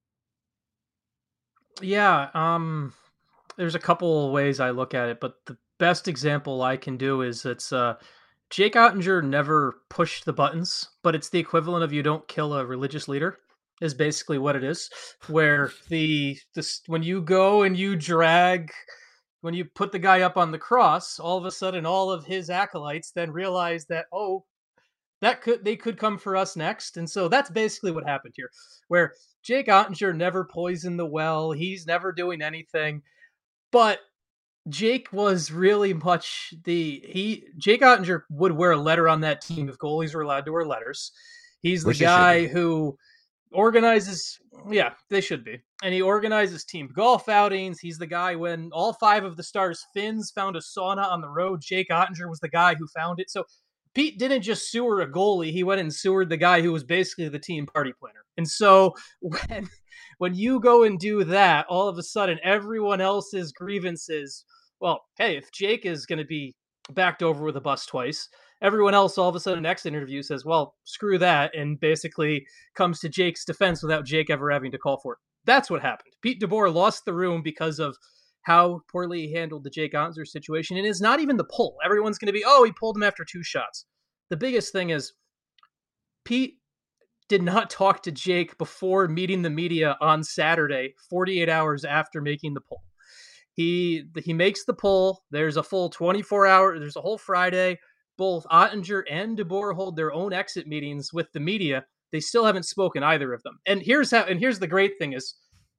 Yeah, there's a couple ways I look at it, but the best example I can do is Jake Ottinger never pushed the buttons, but it's the equivalent of you don't kill a religious leader is basically what it is. Where when you go and when you put the guy up on the cross, all of a sudden all of his acolytes then realize that they could come for us next. And so that's basically what happened here, where Jake Ottinger never poisoned the well. He's never doing anything, but Jake was really much Jake Ottinger would wear a letter on that team if goalies were allowed to wear letters. He's the Which they should guy be. who organizes, yeah, they should be. And he organizes team golf outings. He's the guy when all 5 of the Stars Finns found a sauna on the road. Jake Ottinger was the guy who found it. So Pete didn't just sewer a goalie. He went and sewered the guy who was basically the team party planner. And so when you go and do that, all of a sudden everyone else's grievances, well, hey, if Jake is going to be backed over with a bus twice, everyone else all of a sudden next interview says, well, screw that, and basically comes to Jake's defense without Jake ever having to call for it. That's what happened. Pete DeBoer lost the room because of how poorly he handled the Jake Ottinger situation. And it's not even the pull. Everyone's going to be, he pulled him after 2 shots. The biggest thing is Pete did not talk to Jake before meeting the media on Saturday, 48 hours after making the pull. He makes the pull. There's a full 24 hour. There's a whole Friday. Both Ottinger and DeBoer hold their own exit meetings with the media. They still haven't spoken, either of them. And here's the great thing is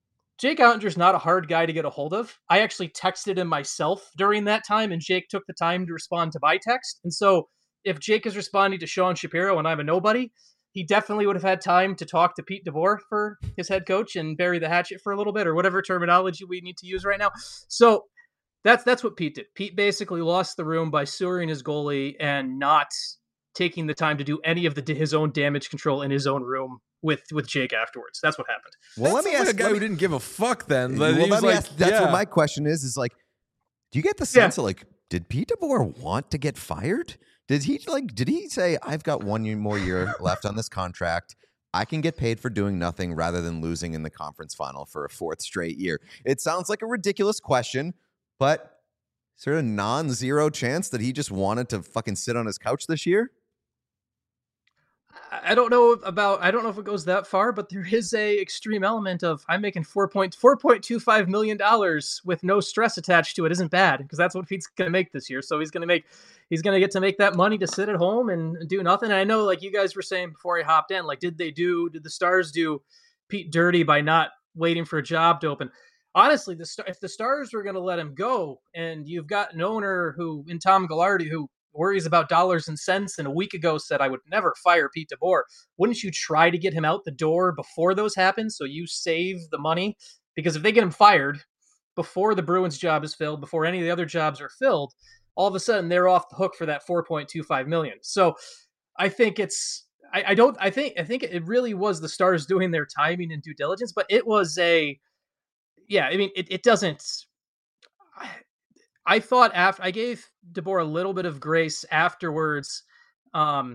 Jake Ottinger's not a hard guy to get a hold of. I actually texted him myself during that time, and Jake took the time to respond to my text. And so if Jake is responding to Sean Shapiro and I'm a nobody, he definitely would have had time to talk to Pete DeBoer for his head coach and bury the hatchet for a little bit, or whatever terminology we need to use right now. So that's what Pete did. Pete basically lost the room by sewering his goalie and not taking the time to do any of his own damage control in his own room with Jake afterwards. That's what happened. Well, let me ask a guy who didn't give a fuck then. Well, let me ask. That's what my question is like, do you get the sense of like, did Pete DeBoer want to get fired? Did he say, I've got 1 more year left on this contract. I can get paid for doing nothing rather than losing in the conference final for a 4th straight year? It sounds like a ridiculous question, but is there a non-zero chance that he just wanted to fucking sit on his couch this year? I don't know if it goes that far, but there is a extreme element of I'm making $4.25 million with no stress attached to it. Isn't bad, because that's what Pete's going to make this year. So he's going to get to make that money to sit at home and do nothing. And I know, like you guys were saying before I hopped in, like, did the Stars do Pete dirty by not waiting for a job to open? Honestly, if the Stars were going to let him go, and you've got an owner in Tom Ghilardi who worries about dollars and cents, and a week ago said I would never fire Pete DeBoer, wouldn't you try to get him out the door before those happen so you save the money? Because if they get him fired before the Bruins job is filled, before any of the other jobs are filled, all of a sudden they're off the hook for that $4.25 million. So I think I think it really was the Stars doing their timing and due diligence, but it was it doesn't. I thought I gave DeBoer a little bit of grace afterwards, after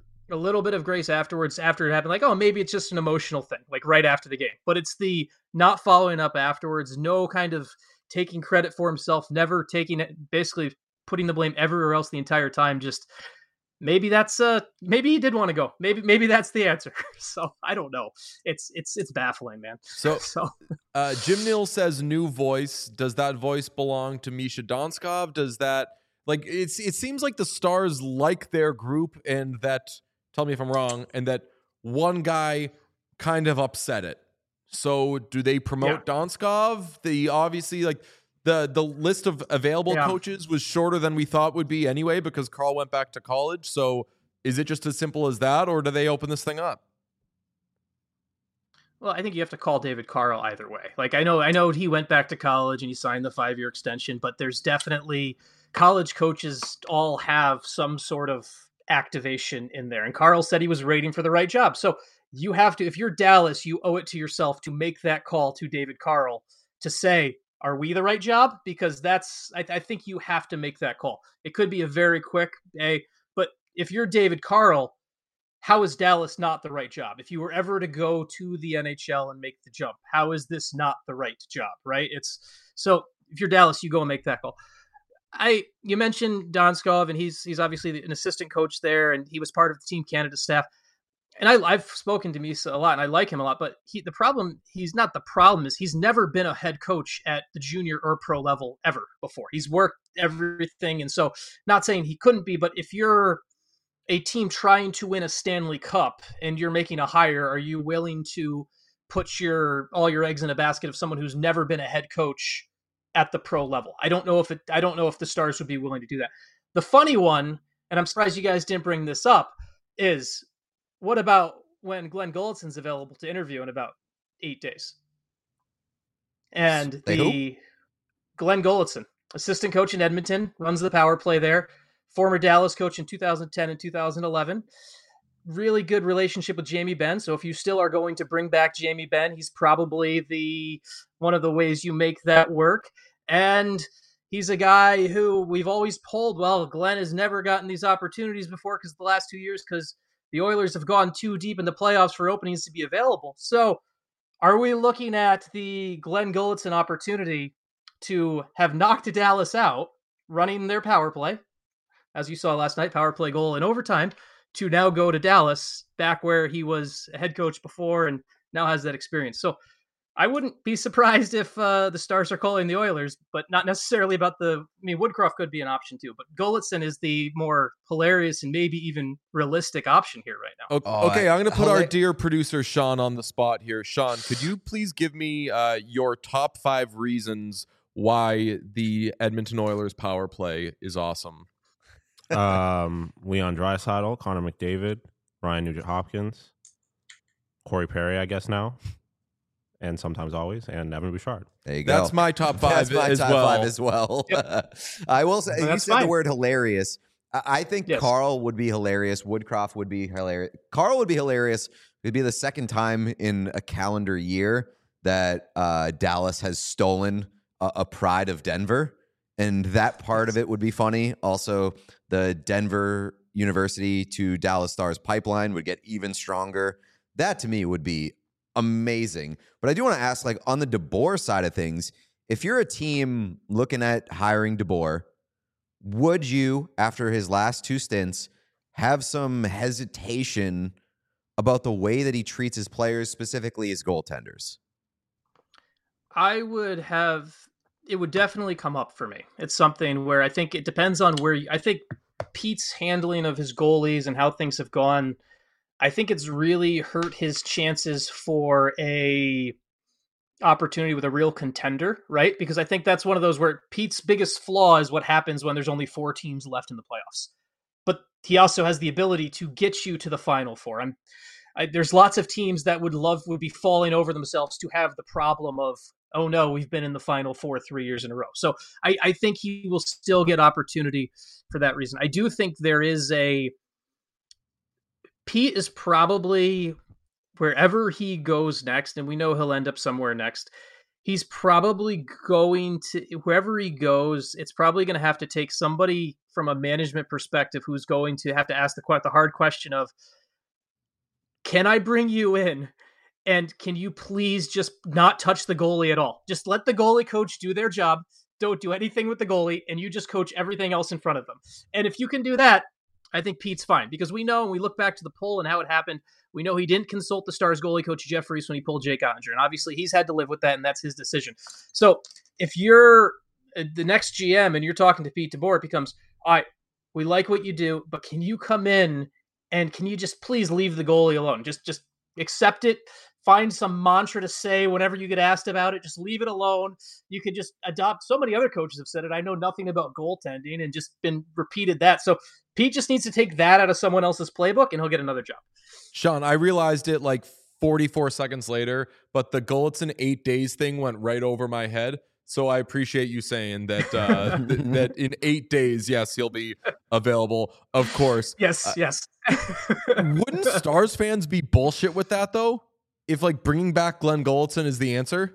it happened. Like, oh, maybe it's just an emotional thing, like right after the game. But it's the not following up afterwards, no kind of taking credit for himself, never taking it, basically putting the blame everywhere else the entire time. Just maybe maybe he did want to go. Maybe that's the answer. So I don't know. It's baffling, man. So Jim Neal says new voice. Does that voice belong to Misha Donskov? Does that it seems like the Stars like their group, and that, tell me if I'm wrong, and that one guy kind of upset it. So do they promote Donskov? Obviously the list of available coaches was shorter than we thought would be anyway, because Carl went back to college. So is it just as simple as that, or do they open this thing up? Well, I think you have to call David Carl either way. Like, I know he went back to college and he signed the 5-year extension, but there's definitely college coaches all have some sort of activation in there. And Carl said he was waiting for the right job. So you have to, if you're Dallas, you owe it to yourself to make that call to David Carl to say, are we the right job? Because I think you have to make that call. It could be a very quick but if you're David Carl, how is Dallas not the right job? If you were ever to go to the NHL and make the jump, how is this not the right job, right? So if you're Dallas, you go and make that call. You mentioned Donskov, and he's obviously an assistant coach there, and he was part of the Team Canada staff. And I've spoken to Misa a lot, and I like him a lot. But he's never been a head coach at the junior or pro level ever before. He's worked everything, and so not saying he couldn't be, but if you're a team trying to win a Stanley Cup and you're making a hire, are you willing to put all your eggs in a basket of someone who's never been a head coach at the pro level? I don't know if the Stars would be willing to do that. The funny one, and I'm surprised you guys didn't bring this up, is what about when Glenn Gullickson's available to interview in about 8 days? And Glenn Gullickson, assistant coach in Edmonton, runs the power play there. Former Dallas coach in 2010 and 2011. Really good relationship with Jamie Benn. So if you still are going to bring back Jamie Benn, he's probably one of the ways you make that work. And he's a guy who we've always polled, well, Glenn has never gotten these opportunities before because the last 2 years, because the Oilers have gone too deep in the playoffs for openings to be available. So are we looking at the Glenn Gullickson opportunity to have knocked Dallas out running their power play, as you saw last night, power play goal in overtime, to now go to Dallas, back where he was a head coach before and now has that experience? So I wouldn't be surprised if the Stars are calling the Oilers, but not necessarily about Woodcroft could be an option too, but Golitzin is the more hilarious and maybe even realistic option here right now. Okay, I'm going to put our dear producer Sean on the spot here. Sean, could you please give me your top 5 reasons why the Edmonton Oilers power play is awesome? Leon Draisaitl, Connor McDavid, Ryan Nugent-Hopkins, Corey Perry, I guess now. And sometimes always, and Evan Bouchard. There you go. That's my top 5 That's my as top well. 5 as well. Yep. I will say, you said fine. the word hilarious. I think Yes. Carl would be hilarious. Woodcroft would be hilarious. Carl would be hilarious. It'd be the second time in a calendar year that Dallas has stolen a pride of Denver. And that part of it would be funny. Also, the Denver University to Dallas Stars pipeline would get even stronger. That to me would be amazing. But I do want to ask, like, on the DeBoer side of things, if you're a team looking at hiring DeBoer, would you, after his last 2 stints, have some hesitation about the way that he treats his players, specifically his goaltenders? I would have, it would definitely come up for me. It's something where I think it depends on where I think Pete's handling of his goalies and how things have gone, I think it's really hurt his chances for a opportunity with a real contender, right? Because I think that's one of those where Pete's biggest flaw is what happens when there's only 4 teams left in the playoffs. But he also has the ability to get you to the Final Four. There's lots of teams that would be falling over themselves to have the problem of, oh no, we've been in the Final Four 3 years in a row. So I think he will still get opportunity for that reason. I do think there is Pete is probably, wherever he goes next, and we know he'll end up somewhere next, he's probably going to, wherever he goes, it's probably going to have to take somebody from a management perspective who's going to have to ask the hard question of, can I bring you in? And can you please just not touch the goalie at all? Just let the goalie coach do their job. Don't do anything with the goalie, and you just coach everything else in front of them. And if you can do that, I think Pete's fine, because we know, and we look back to the poll and how it happened, we know he didn't consult the Stars goalie coach Jeff Reese when he pulled Jake Ottinger, and obviously he's had to live with that, and that's his decision. So if you're the next GM and you're talking to Pete DeBoer, it becomes, all right, we like what you do, but can you come in and can you just please leave the goalie alone? Just accept it. Find some mantra to say whenever you get asked about it. Just leave it alone. You could just adopt. So many other coaches have said it. I know nothing about goaltending and just been repeated that. So Pete just needs to take that out of someone else's playbook and he'll get another job. Sean, I realized it like 44 seconds later, but the Golitzin 8 days thing went right over my head. So I appreciate you saying that that in 8 days, yes, he'll be available. Of course. Yes, yes. Wouldn't Stars fans be bullshit with that though? If like bringing back Glenn Golitzin is the answer?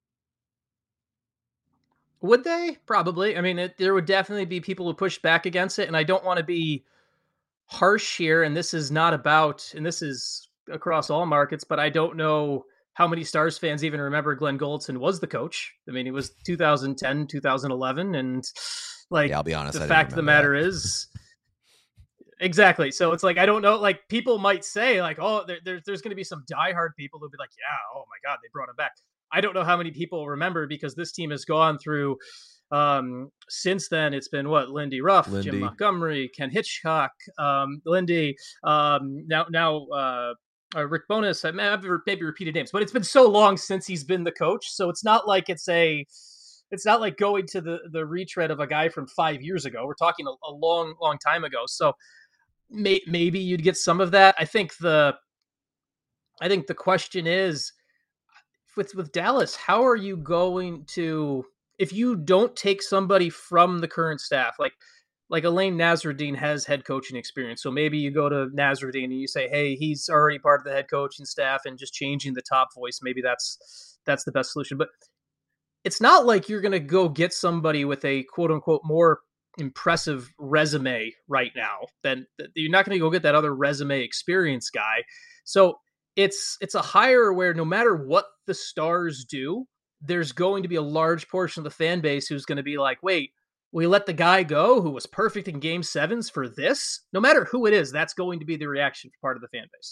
Would they? Probably. I mean, there would definitely be people who push back against it, and I don't want to be harsh here, and this is not about, and this is across all markets, but I don't know how many Stars fans even remember Glenn Golitzin was the coach. I mean, it was 2010, 2011, and like, yeah, I'll be honest, the fact of the matter is, exactly. So it's like, I don't know, like people might say like, oh, there's going to be some diehard people who'll be like, yeah, oh my God, they brought him back. I don't know how many people remember, because this team has gone through, since then, it's been what? Lindy Ruff, Jim Montgomery, Ken Hitchcock, Lindy, now Rick Bowness. I have maybe repeated names, but it's been so long since he's been the coach. So it's not like it's not like going to the retread of a guy from 5 years ago. We're talking a long, long time ago. So maybe you'd get some of that. I think the question is, with Dallas, how are you going to, if you don't take somebody from the current staff, like Elaine Nasruddin has head coaching experience. So maybe you go to Nasruddin and you say, hey, he's already part of the head coaching staff, and just changing the top voice. Maybe that's the best solution. But it's not like you're going to go get somebody with a quote unquote more impressive resume right now. Then you're not going to go get that other resume experience guy. So it's a hire where no matter what the Stars do, there's going to be a large portion of the fan base who's going to be like, wait, we let the guy go who was perfect in game 7s for this? No matter who it is, that's going to be the reaction for part of the fan base.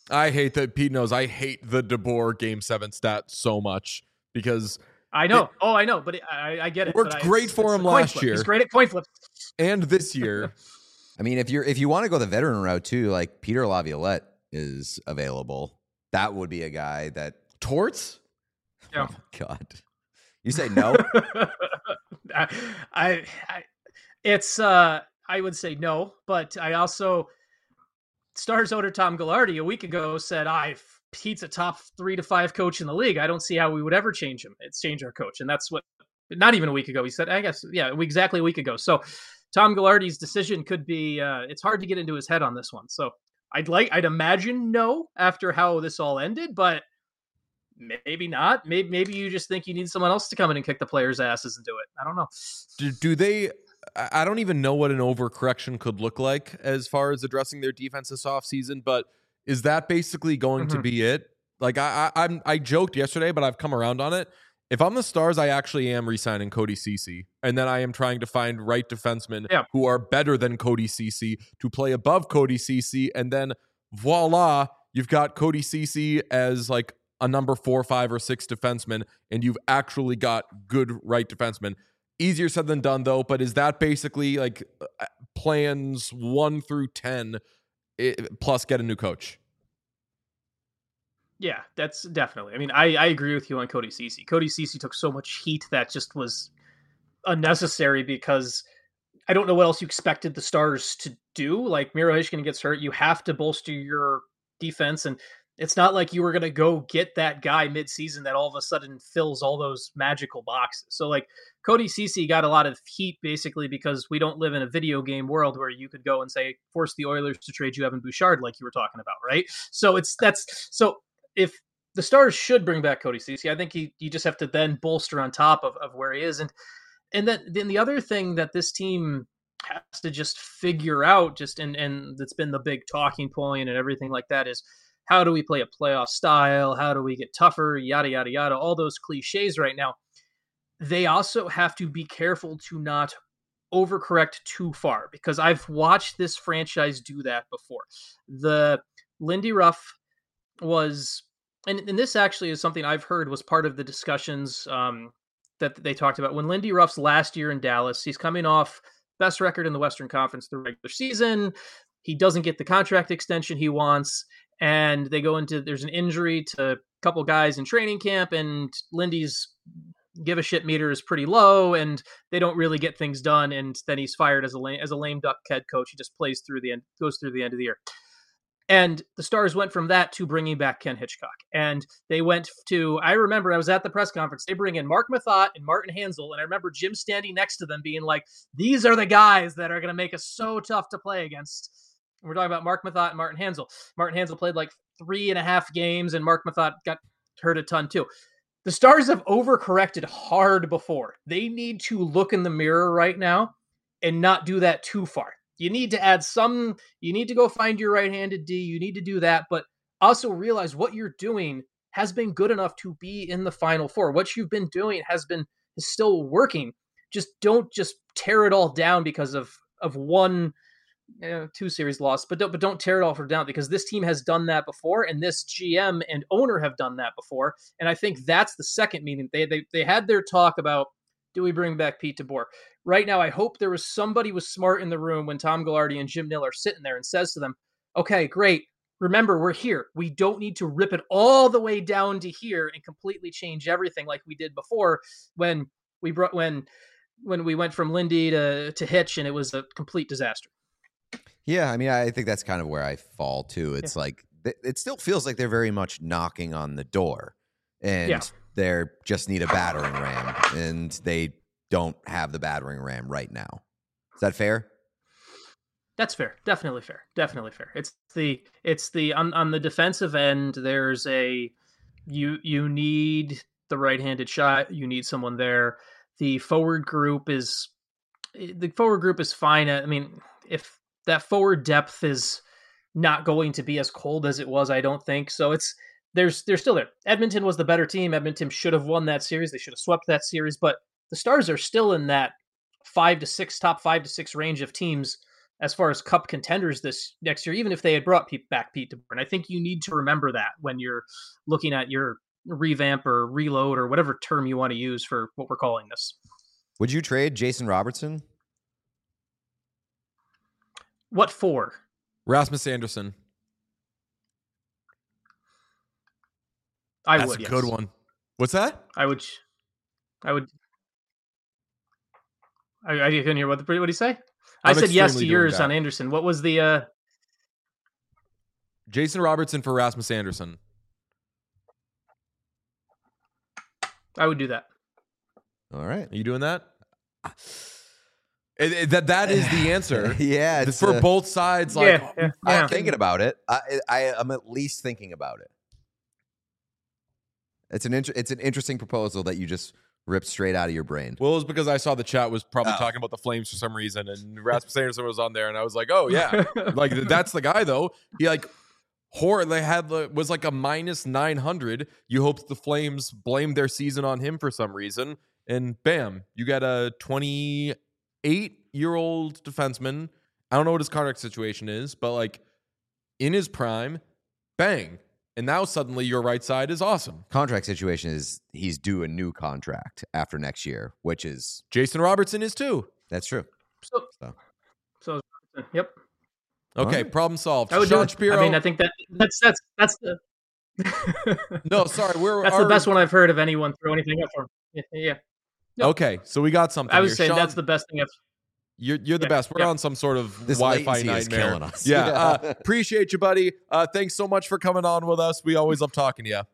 I hate that. Pete knows I hate the DeBoer Game 7 stat so much because I know. I know, but I get it. Worked great for him last year. He's great at coin flips. And this year. I mean, if you want to go the veteran route too, like Peter Laviolette is available. That would be a guy that Torts? Yeah. Oh my God. You say no? I would say no, but I also Stars owner Tom Ghilardi a week ago said, Pete's a top 3 to 5 coach in the league. I don't see how we would ever change him. It's change our coach. And that's what, not even a week ago, he said, I guess, yeah, exactly a week ago. So Tom Ghilardi's decision could be, it's hard to get into his head on this one. So I'd imagine no after how this all ended, but maybe not. Maybe you just think you need someone else to come in and kick the players' asses and do it. I don't know. Do they? I don't even know what an overcorrection could look like as far as addressing their defense this offseason, but is that basically going to be it? Like I joked yesterday, but I've come around on it. If I'm the Stars, I actually am re-signing Cody Ceci, and then I am trying to find right defensemen who are better than Cody Ceci to play above Cody Ceci, and then voila, you've got Cody Ceci as like a number 4, 5, or 6 defenseman, and you've actually got good right defensemen. Easier said than done, though, but is that basically like plans 1 through 10 plus get a new coach? Yeah, that's definitely. I mean, I agree with you on Cody Ceci. Cody Ceci took so much heat that just was unnecessary because I don't know what else you expected the Stars to do. Like, Miro Heiskanen gets hurt, you have to bolster your defense, and it's not like you were going to go get that guy mid-season that all of a sudden fills all those magical boxes. So, like, Cody Ceci got a lot of heat basically because we don't live in a video game world where you could go and say, force the Oilers to trade you Evan Bouchard like you were talking about, right? So if the Stars should bring back Cody Ceci, I think you just have to then bolster on top of where he is. And then the other thing that this team has to just figure out, and that's been the big talking point and everything like that, is how do we play a playoff style? How do we get tougher? Yada, yada, yada. All those cliches right now. They also have to be careful to not overcorrect too far because I've watched this franchise do that before. The Lindy Ruff was, and this actually is something I've heard was part of the discussions that they talked about. When Lindy Ruff's last year in Dallas, he's coming off best record in the Western Conference the regular season. He doesn't get the contract extension he wants. And they go into, there's an injury to a couple guys in training camp, and Lindy's give a shit meter is pretty low, and they don't really get things done. And then he's fired as a lame duck head coach. He just goes through the end of the year. And the Stars went from that to bringing back Ken Hitchcock. And they went to, I remember I was at the press conference, they bring in Mark Mathot and Martin Hansel. And I remember Jim standing next to them being like, these are the guys that are going to make us so tough to play against. And we're talking about Mark Mathot and Martin Hansel. Martin Hansel played like 3.5 games, and Mark Mathot got hurt a ton too. The Stars have overcorrected hard before. They need to look in the mirror right now and not do that too far. You need to add you need to go find your right-handed D. You need to do that, but also realize what you're doing has been good enough to be in the Final Four. What you've been doing is still working. Just don't tear it all down because of one 2 series loss, but don't tear it all down because this team has done that before, and this GM and owner have done that before. And I think that's the second meeting. They had their talk about, do we bring back Pete DeBoer? Right now, I hope there was somebody was smart in the room when Tom Ghilardi and Jim Nill are sitting there and says to them, okay, great. Remember, we're here. We don't need to rip it all the way down to here and completely change everything like we did before when we went from Lindy to Hitch, and it was a complete disaster. Yeah, I mean, I think that's kind of where I fall too. It's like it still feels like they're very much knocking on the door, and they just need a battering ram, and they don't have the battering ram right now. Is that fair? That's fair. Definitely fair. Definitely fair. It's the on the defensive end. There's you need the right-handed shot. You need someone there. The forward group is fine. I mean, if that forward depth is not going to be as cold as it was, I don't think. So they're still there. Edmonton was the better team. Edmonton should have won that series. They should have swept that series, but the Stars are still in that top 5 to 6 range of teams as far as cup contenders this next year, even if they had brought back Pete DeBoer. And I think you need to remember that when you're looking at your revamp or reload or whatever term you want to use for what we're calling this. Would you trade Jason Robertson? What for? Rasmus Anderson. That's a yes. good one. What's that? I would. I couldn't hear what did he say? I said yes to yours on Anderson. What was the Jason Robertson for Rasmus Anderson? I would do that. All right. Are you doing that? That is the answer. Yeah, it's for both sides. Like, yeah. I'm thinking about it. I'm at least thinking about it. It's an interesting proposal that you just ripped straight out of your brain. Well, it was because I saw the chat was probably talking about the Flames for some reason, and Rasmus Anderson was on there, and I was like, oh yeah, like that's the guy though. He like was like a minus 900. You hoped the Flames blamed their season on him for some reason, and bam, you got a 28-year-old defenseman. I don't know what his contract situation is, but like in his prime, bang. And now suddenly your right side is awesome. Contract situation is he's due a new contract after next year, which is Jason Robertson is too. That's true. So yep. Okay, right. problem solved. I would Sean do it. Shapiro. I mean, I think that's the. No, sorry, that's the best one I've heard of anyone throw anything up for. Yeah. No. Okay, so we got something. I was here. saying Sean, that's the best thing I've. You're the best. We're on some sort of This Wi-Fi latency is nightmare. killing us. Yeah, appreciate you, buddy. Thanks so much for coming on with us. We always love talking to you.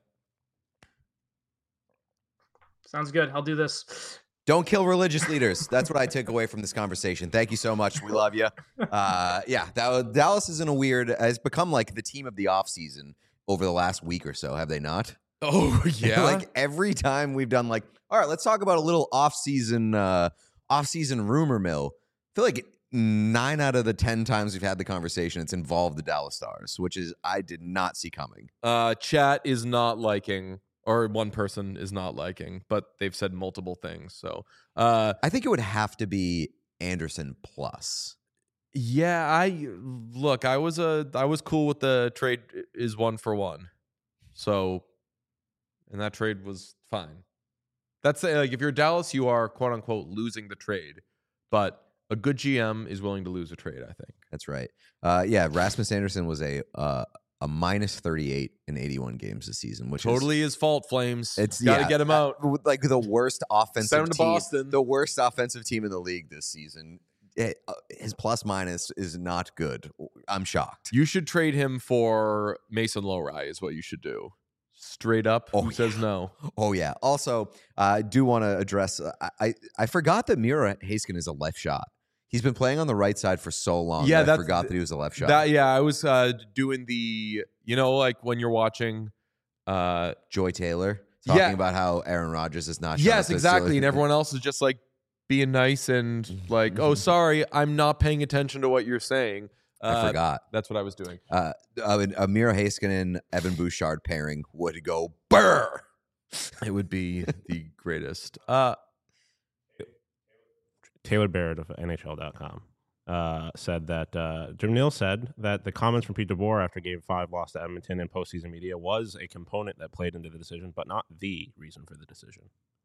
Sounds good. I'll do this. Don't kill religious leaders. That's what I took away from this conversation. Thank you so much. We love you. Dallas has become like the team of the offseason over the last week or so, have they not? Oh, yeah. Like every time we've done like, all right, let's talk about a little off-season rumor mill. I feel like 9 out of the 10 times we've had the conversation, it's involved the Dallas Stars, which is I did not see coming. Chat is not liking, or one person is not liking, but they've said multiple things. So I think it would have to be Anderson plus. Yeah, I was cool with the trade is 1-for-1. So, and that trade was fine. That's like if you're Dallas, you are quote unquote losing the trade, but a good GM is willing to lose a trade, I think. That's right. Rasmus Anderson was a minus 38 in 81 games this season, which totally his fault. Flames. It's got to get him out. Like the worst offensive Send him to team, Boston. the worst offensive team in the league this season. His plus minus is not good. I'm shocked. You should trade him for Mason Lowry is what you should do. Straight up. Who says no? Oh, yeah. Also, I do want to address, I forgot that Miro Heiskanen is a left shot. He's been playing on the right side for so long. Yeah, I forgot that he was a left shot. I was doing the, like when you're watching Joy Taylor talking about how Aaron Rodgers is not. Yes, exactly. And everyone else is just like being nice and like, oh, sorry, I'm not paying attention to what you're saying. I forgot. That's what I was doing. A Miro Heiskanen, Evan Bouchard pairing would go burr. It would be the greatest. Taylor Barrett of NHL.com said that Jim Neal said that the comments from Pete DeBoer after Game 5 loss to Edmonton in postseason media was a component that played into the decision, but not the reason for the decision.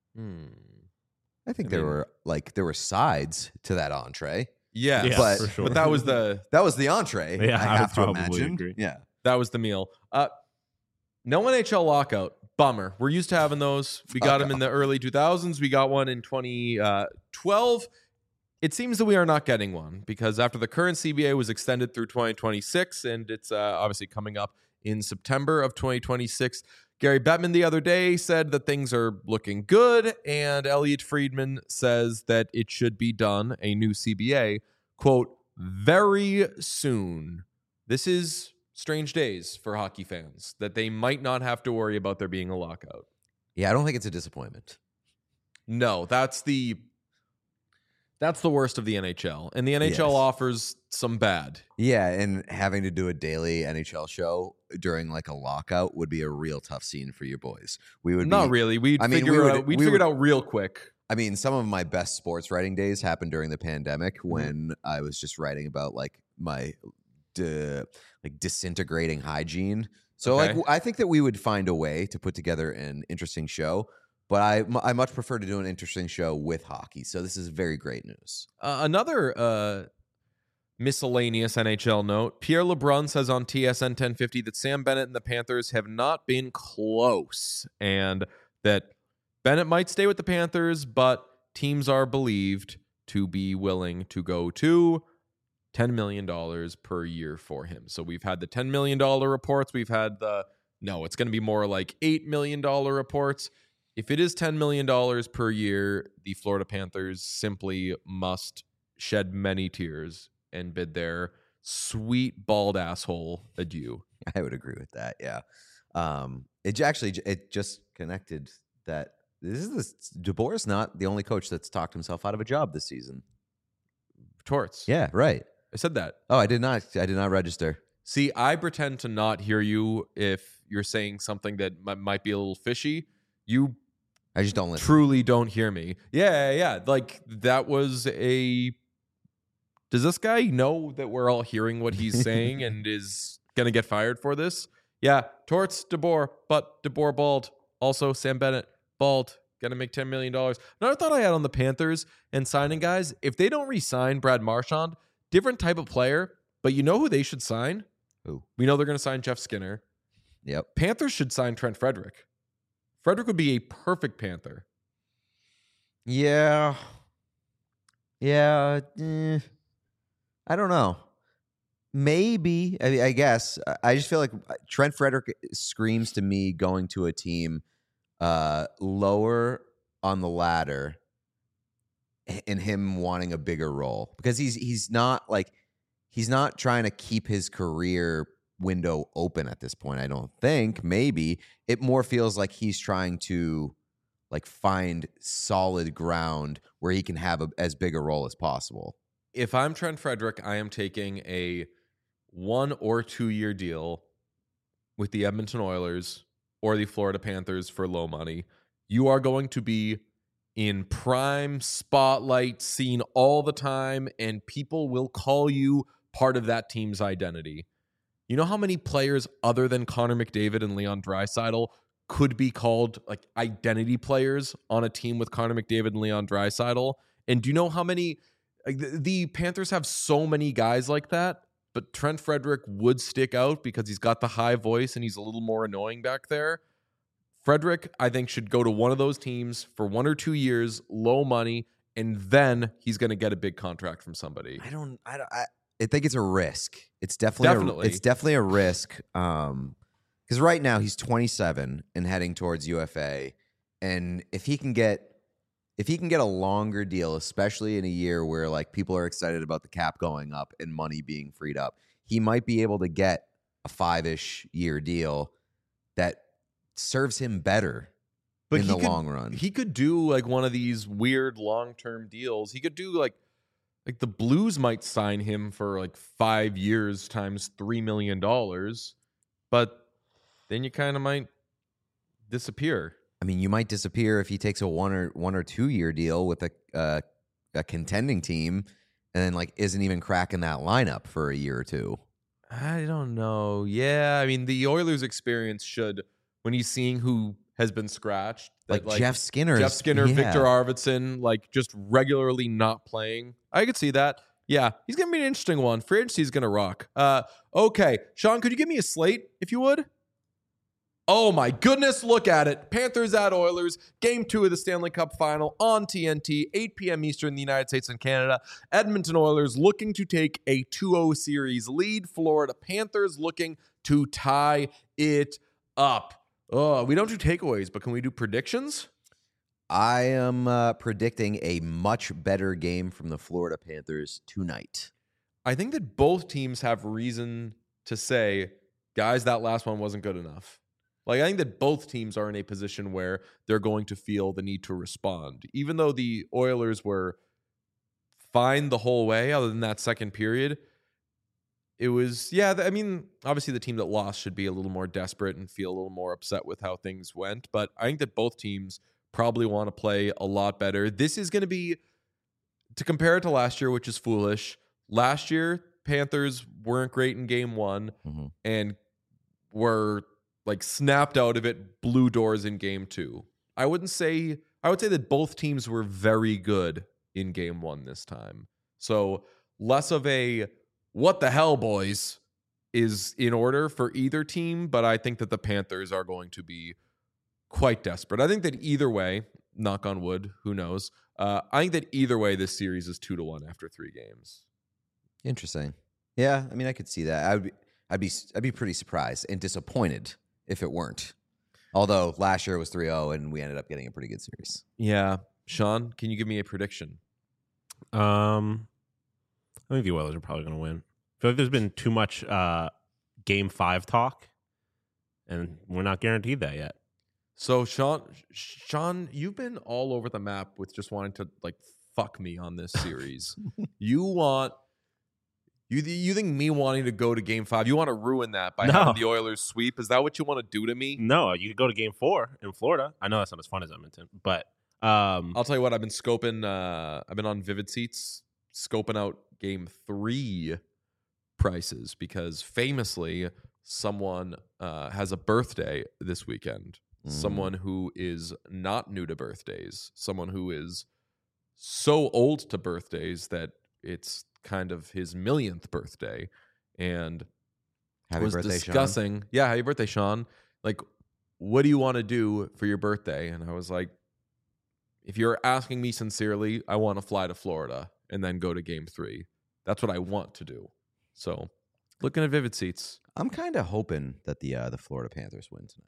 I think there were sides to that entree. Yeah, but, for sure. But that was the Yeah, entree. I have to imagine. Agree. Yeah, that was the meal. No NHL lockout. Bummer. We're used to having those. We got them in the early 2000s. We got one in 2012. It seems that we are not getting one because after the current CBA was extended through 2026, and it's obviously coming up in September of 2026. Gary Bettman the other day said that things are looking good, and Elliot Friedman says that it should be done, a new CBA, quote, very soon. This is strange days for hockey fans, that they might not have to worry about there being a lockout. Yeah, I don't think it's a disappointment. No, that's the worst of the NHL. And the NHL offers some bad. Yeah, and having to do a daily NHL show during like a lockout would be a real tough scene for your boys. We would not really. We'd figure it out real quick. I mean, some of my best sports writing days happened during the pandemic Mm-hmm. when I was just writing about like my disintegrating hygiene. So Okay. like I think that we would find a way to put together an interesting show, but I much prefer to do an interesting show with hockey. So this is very great news. Another miscellaneous NHL note. Pierre LeBrun says on TSN 1050 that Sam Bennett and the Panthers have not been close and that Bennett might stay with the Panthers, but teams are believed to be willing to go to $10 million per year for him. So we've had the $10 million reports. We've had it's going to be more like $8 million reports. If it is $10 million per year, the Florida Panthers simply must shed many tears and bid their sweet bald asshole adieu. I would agree with that. Yeah. It just connected that DeBoer is not the only coach that's talked himself out of a job this season. Torts. Yeah, right. I said that. Oh, I did not register. See, I pretend to not hear you if you're saying something that might be a little fishy. You I just don't listen. truly don't hear me. Yeah. Like that was a. Does this guy know that we're all hearing what he's saying and is gonna get fired for this? Yeah, Torts, DeBoer, but DeBoer bald. Also, Sam Bennett bald. Gonna make $10 million. Another thought I had on the Panthers and signing guys: if they don't re-sign Brad Marchand, different type of player, but you know who they should sign? Who? We know they're gonna sign Jeff Skinner. Yep. Panthers should sign Trent Frederick. Frederick would be a perfect Panther. Yeah. Yeah. I don't know. Maybe. I guess. I just feel like Trent Frederick screams to me going to a team lower on the ladder and him wanting a bigger role because he's not trying to keep his career window open at this point. I don't think. Maybe it more feels like he's trying to like find solid ground where he can have as big a role as possible. If I'm Trent Frederick, I am taking a 1 or 2 year deal with the Edmonton Oilers or the Florida Panthers for low money. You are going to be in prime spotlight, seen all the time, and people will call you part of that team's identity. You know how many players other than Connor McDavid and Leon Draisaitl could be called like identity players on a team with Connor McDavid and Leon Draisaitl? And do you know how many? Like the Panthers have so many guys like that, but Trent Frederick would stick out because he's got the high voice and he's a little more annoying back there. Frederick, I think, should go to one of those teams for 1 or 2 years, low money, and then he's going to get a big contract from somebody. I think it's a risk. It's definitely a risk. Because right now he's 27 and heading towards UFA, and if he can get a longer deal, especially in a year where like people are excited about the cap going up and money being freed up, he might be able to get a 5-ish year deal that serves him better in the long run. He could do like one of these weird long-term deals. He could do like the Blues might sign him for like 5 years times $3 million, but then you kind of might disappear. I mean, you might disappear if he takes a 1 or 2 year deal with a contending team and then like isn't even cracking that lineup for a year or two. I don't know. Yeah, I mean, the Oilers' experience should, when he's seeing who has been scratched, like Jeff Skinner, yeah. Victor Arvidsson, like just regularly not playing. I could see that. Yeah, he's gonna be an interesting one. Free agency is gonna rock. Okay, Sean, could you give me a slate if you would? Oh my goodness, look at it. Panthers at Oilers, Game 2 of the Stanley Cup Final on TNT, 8 p.m. Eastern in the United States and Canada. Edmonton Oilers looking to take a 2-0 series lead. Florida Panthers looking to tie it up. Oh, we don't do takeaways, but can we do predictions? I am predicting a much better game from the Florida Panthers tonight. I think that both teams have reason to say, guys, that last one wasn't good enough. Like, I think that both teams are in a position where they're going to feel the need to respond. Even though the Oilers were fine the whole way, other than that second period, it was, I mean, obviously the team that lost should be a little more desperate and feel a little more upset with how things went. But I think that both teams probably want to play a lot better. This is going to be, to compare it to last year, which is foolish. Last year, Panthers weren't great in game 1 and were like snapped out of it, blew doors in game 2. I would say that both teams were very good in game 1 this time. So less of a what the hell, boys, is in order for either team, but I think that the Panthers are going to be quite desperate. I think that either way, knock on wood, who knows? I think that either way, this series is 2-1 after 3 games. Interesting. Yeah, I mean, I could see that. I'd be pretty surprised and disappointed if it weren't. Although last year it was 3-0 and we ended up getting a pretty good series. Yeah, Sean, can you give me a prediction? I think the Oilers are probably going to win. I feel like there's been too much Game 5 talk, and we're not guaranteed that yet. So, Sean, you've been all over the map with just wanting to like fuck me on this series. You think me wanting to go to Game 5? You want to ruin that by having the Oilers sweep? Is that what you want to do to me? No, you could go to Game 4 in Florida. I know that's not as fun as Edmonton, but I'll tell you what. I've been scoping. I've been on Vivid Seats scoping out Game 3 prices because famously someone has a birthday this weekend. Someone who is not new to birthdays. Someone who is so old to birthdays that it's kind of his 1,000,000th birthday. And Happy was birthday, discussing, Sean. Yeah, happy birthday, Sean. Like, what do you want to do for your birthday? And I was like, if you're asking me sincerely, I want to fly to Florida and then go to Game 3. That's what I want to do. So, looking at Vivid Seats. I'm kind of hoping that the Florida Panthers win tonight.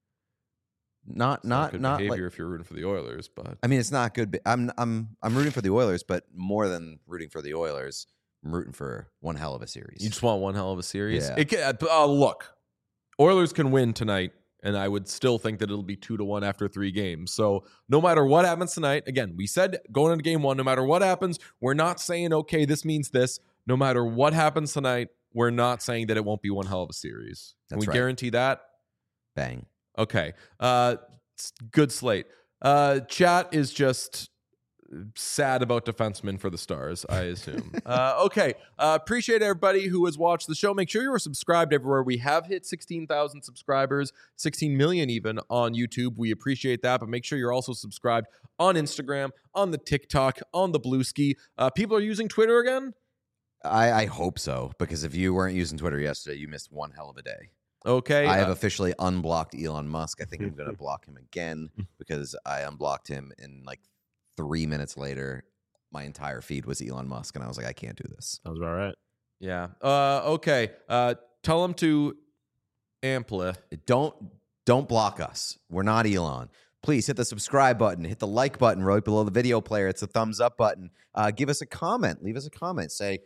Not good behavior like, if you're rooting for the Oilers, but I mean, it's not good. I'm rooting for the Oilers, but more than rooting for the Oilers, I'm rooting for one hell of a series. you just want one hell of a series. Yeah. Look, Oilers can win tonight, and I would still think that it'll be 2-1 after 3 games. So no matter what happens tonight, again, we said going into Game 1, no matter what happens, we're not saying, okay, this means this. No matter what happens tonight, we're not saying that it won't be one hell of a series. Can we guarantee that? Bang. Okay. Good slate. Chat is just sad about defensemen for the Stars, I assume. Okay. Appreciate everybody who has watched the show. Make sure you are subscribed everywhere. We have hit 16,000 subscribers, 16 million even on YouTube. We appreciate that, but make sure you're also subscribed on Instagram, on the TikTok, on the Bluesky. People are using Twitter again? I hope so, because if you weren't using Twitter yesterday, you missed one hell of a day. Okay. I have officially unblocked Elon Musk. I think I'm going to block him again because I unblocked him and like 3 minutes later, my entire feed was Elon Musk. And I was like, I can't do this. Sounds about right. Yeah. Okay. Tell him to ampli. Don't block us. We're not Elon. Please hit the subscribe button. Hit the like button right below the video player. It's the thumbs up button. Give us a comment. Leave us a comment. Say,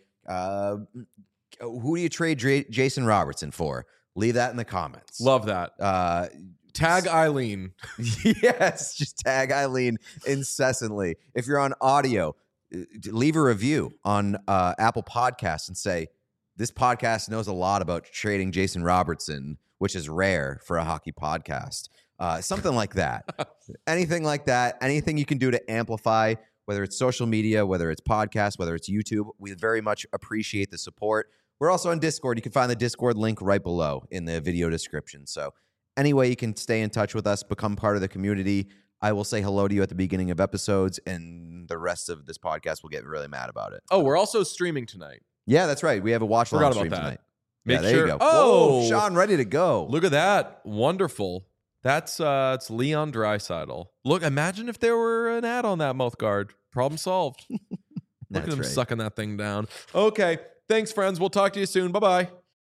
who do you trade Jason Robertson for? Leave that in the comments. Love that. Tag Eileen. Yes, just tag Eileen incessantly. If you're on audio, leave a review on Apple Podcasts and say, this podcast knows a lot about trading Jason Robertson, which is rare for a hockey podcast. Something like that. Anything like that. Anything you can do to amplify, whether it's social media, whether it's podcasts, whether it's YouTube. We very much appreciate the support. We're also on Discord. You can find the Discord link right below in the video description. So any way you can stay in touch with us, become part of the community. I will say hello to you at the beginning of episodes, and the rest of this podcast will get really mad about it. Oh, we're also streaming tonight. Yeah, that's right. We have a watch Forgot along about stream that. tonight. Make there sure. you go. Oh, Whoa, Sean, ready to go. Look at that. Wonderful. That's it's Leon Draisaitl. Look, imagine if there were an ad on that mouth guard. Problem solved. Look at him sucking that thing down. Okay. Thanks, friends. We'll talk to you soon. Bye-bye.